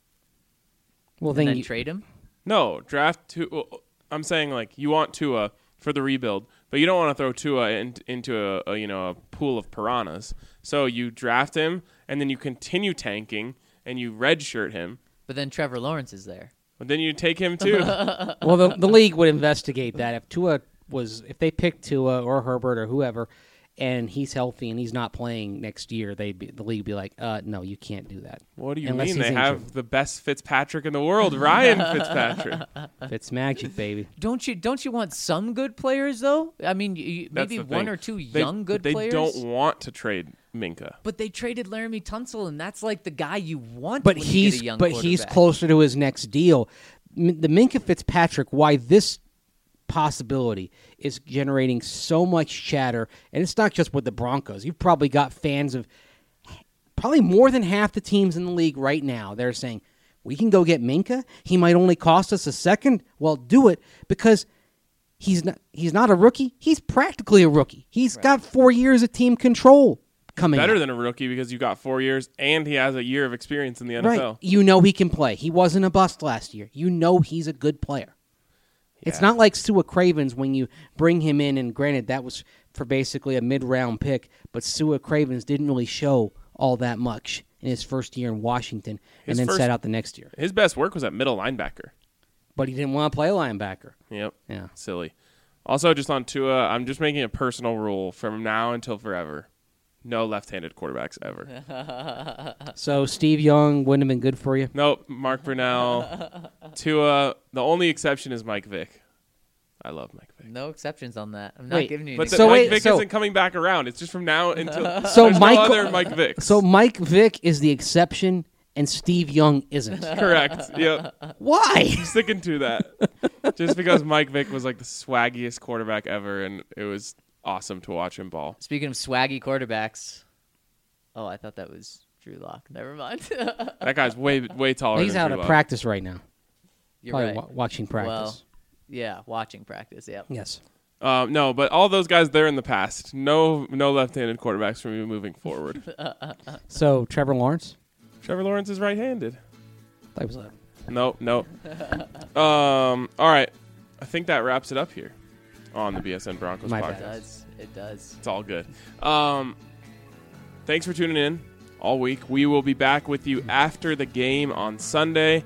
Well, and then, then you, trade him? No, draft Tua. I'm saying like you want Tua for the rebuild, but you don't want to throw Tua in, into a, a you know a pool of piranhas. So you draft him, and then you continue tanking, and you redshirt him. But then Trevor Lawrence is there. But then you take him too. well, the, the league would investigate that if Tua was, if they picked Tua or Herbert or whoever, and he's healthy and he's not playing next year, they be, the league would be like, uh, no, you can't do that. What do you Unless mean? he's They injured. have the best Fitzpatrick in the world, Ryan Fitzpatrick. It's magic, baby. Don't you don't you want some good players though? I mean, you, That's maybe the one thing. or two They- young good they players. don't want to trade Minka. But they traded Laramie Tunsil, and that's like the guy you want. But when you he's get a young but he's quarterback. closer to his next deal. M- The Minka Fitzpatrick, why this possibility is generating so much chatter, and it's not just with the Broncos. You've probably got fans of probably more than half the teams in the league right now. They're saying, we can go get Minka. He might only cost us a second. Well, do it because he's not he's not a rookie. He's practically a rookie. He's got four years of team control coming Better up. than a rookie because you got four years and he has a year of experience in the N F Right. L. You know he can play. He wasn't a bust last year. You know he's a good player. It's Yeah. not like Sua Cravens when you bring him in, and granted, that was for basically a mid-round pick, but Sua Cravens didn't really show all that much in his first year in Washington His and then first- sat out the next year. His best work was at middle linebacker. But he didn't want to play linebacker. Yep. Yeah. Silly. Also, just on Tua, I'm just making a personal rule from now until forever. No left-handed quarterbacks ever. So Steve Young wouldn't have been good for you? Nope. Mark Brunell. Tua. The only exception is Mike Vick. I love Mike Vick. No exceptions on that. I'm not Wait, giving you. But any the, So Mike wait, Vick so- isn't coming back around. It's just from now until So there's Michael- no other Mike Vicks. So Mike Vick is the exception, and Steve Young isn't. correct. Yep. Why? Sticking to that. Just because Mike Vick was like the swaggiest quarterback ever, and it was awesome to watch him ball. Speaking of swaggy quarterbacks, oh, I thought that was Drew Lock. Never mind. That guy's way way taller. He's than out Drew of Lock. practice right now. You're Probably right. wa- watching practice. Well, yeah, watching practice. Yep. Yes. Um, no, but all those guys, they're in the past. No, no left-handed quarterbacks for me moving forward. So Trevor Lawrence? Trevor Lawrence is right-handed. That was a No, no. um, all right, I think that wraps it up here on the B S N Broncos My It bad. podcast. does. It does. It's all good. Um, thanks for tuning in all week. We will be back with you after the game on Sunday.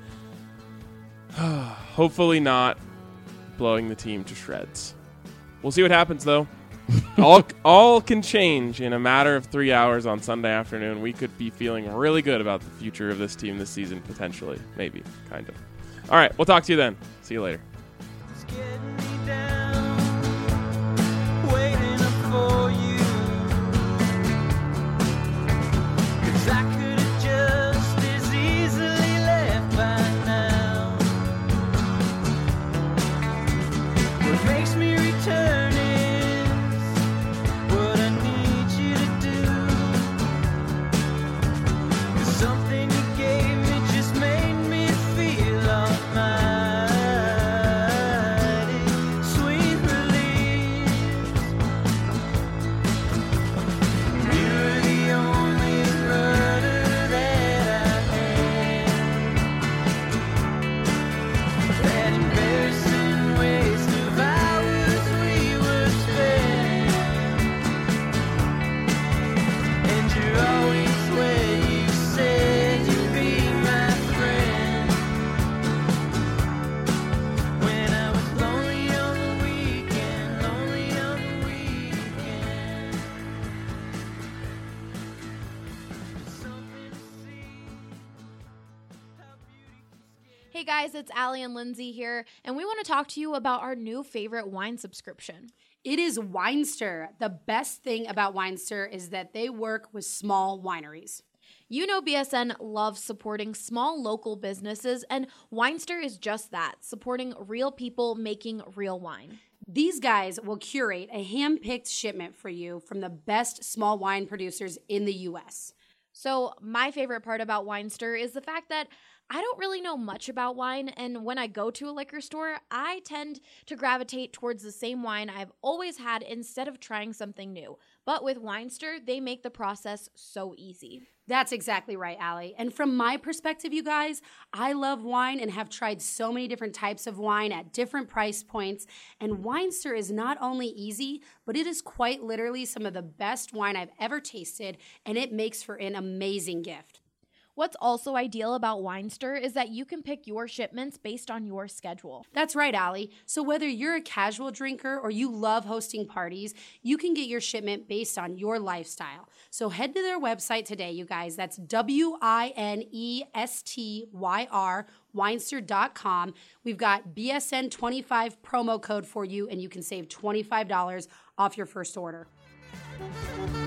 Hopefully not blowing the team to shreds. We'll see what happens, though. all, all can change in a matter of three hours on Sunday afternoon. We could be feeling really good about the future of this team this season, potentially. Maybe. Kind of. All right. We'll talk to you then. See you later. It's getting me down, waiting up for you. 'Cause I could have just as easily left by now. What makes me return is what I need you to do. 'Cause something you gave me just made me feel almighty. Sweet release. You were the only rudder that I had. That embarrassing waste of hours we were spent. And you're always where you said you'd be my friend. When I was lonely on the weekend, lonely on the weekend. Something to see. Hey guys, it's Allie and Lindsay here, and we want to talk to you about our new favorite wine subscription. It is Winester. The best thing about Winester is that they work with small wineries. You know B S N loves supporting small local businesses, and Winester is just that, supporting real people making real wine. These guys will curate a hand-picked shipment for you from the best small wine producers in the U S. So, my favorite part about Winestyr is the fact that I don't really know much about wine, and when I go to a liquor store, I tend to gravitate towards the same wine I've always had instead of trying something new. But with Winestyr, they make the process so easy. That's exactly right, Allie. And from my perspective, you guys, I love wine and have tried so many different types of wine at different price points. And Winestyr is not only easy, but it is quite literally some of the best wine I've ever tasted, and it makes for an amazing gift. What's also ideal about Winestyr is that you can pick your shipments based on your schedule. That's right, Allie. So whether you're a casual drinker or you love hosting parties, you can get your shipment based on your lifestyle. So head to their website today, you guys. That's W I N E S T Y R, winestyr dot com. We've got B S N twenty-five promo code for you, and you can save twenty-five dollars off your first order.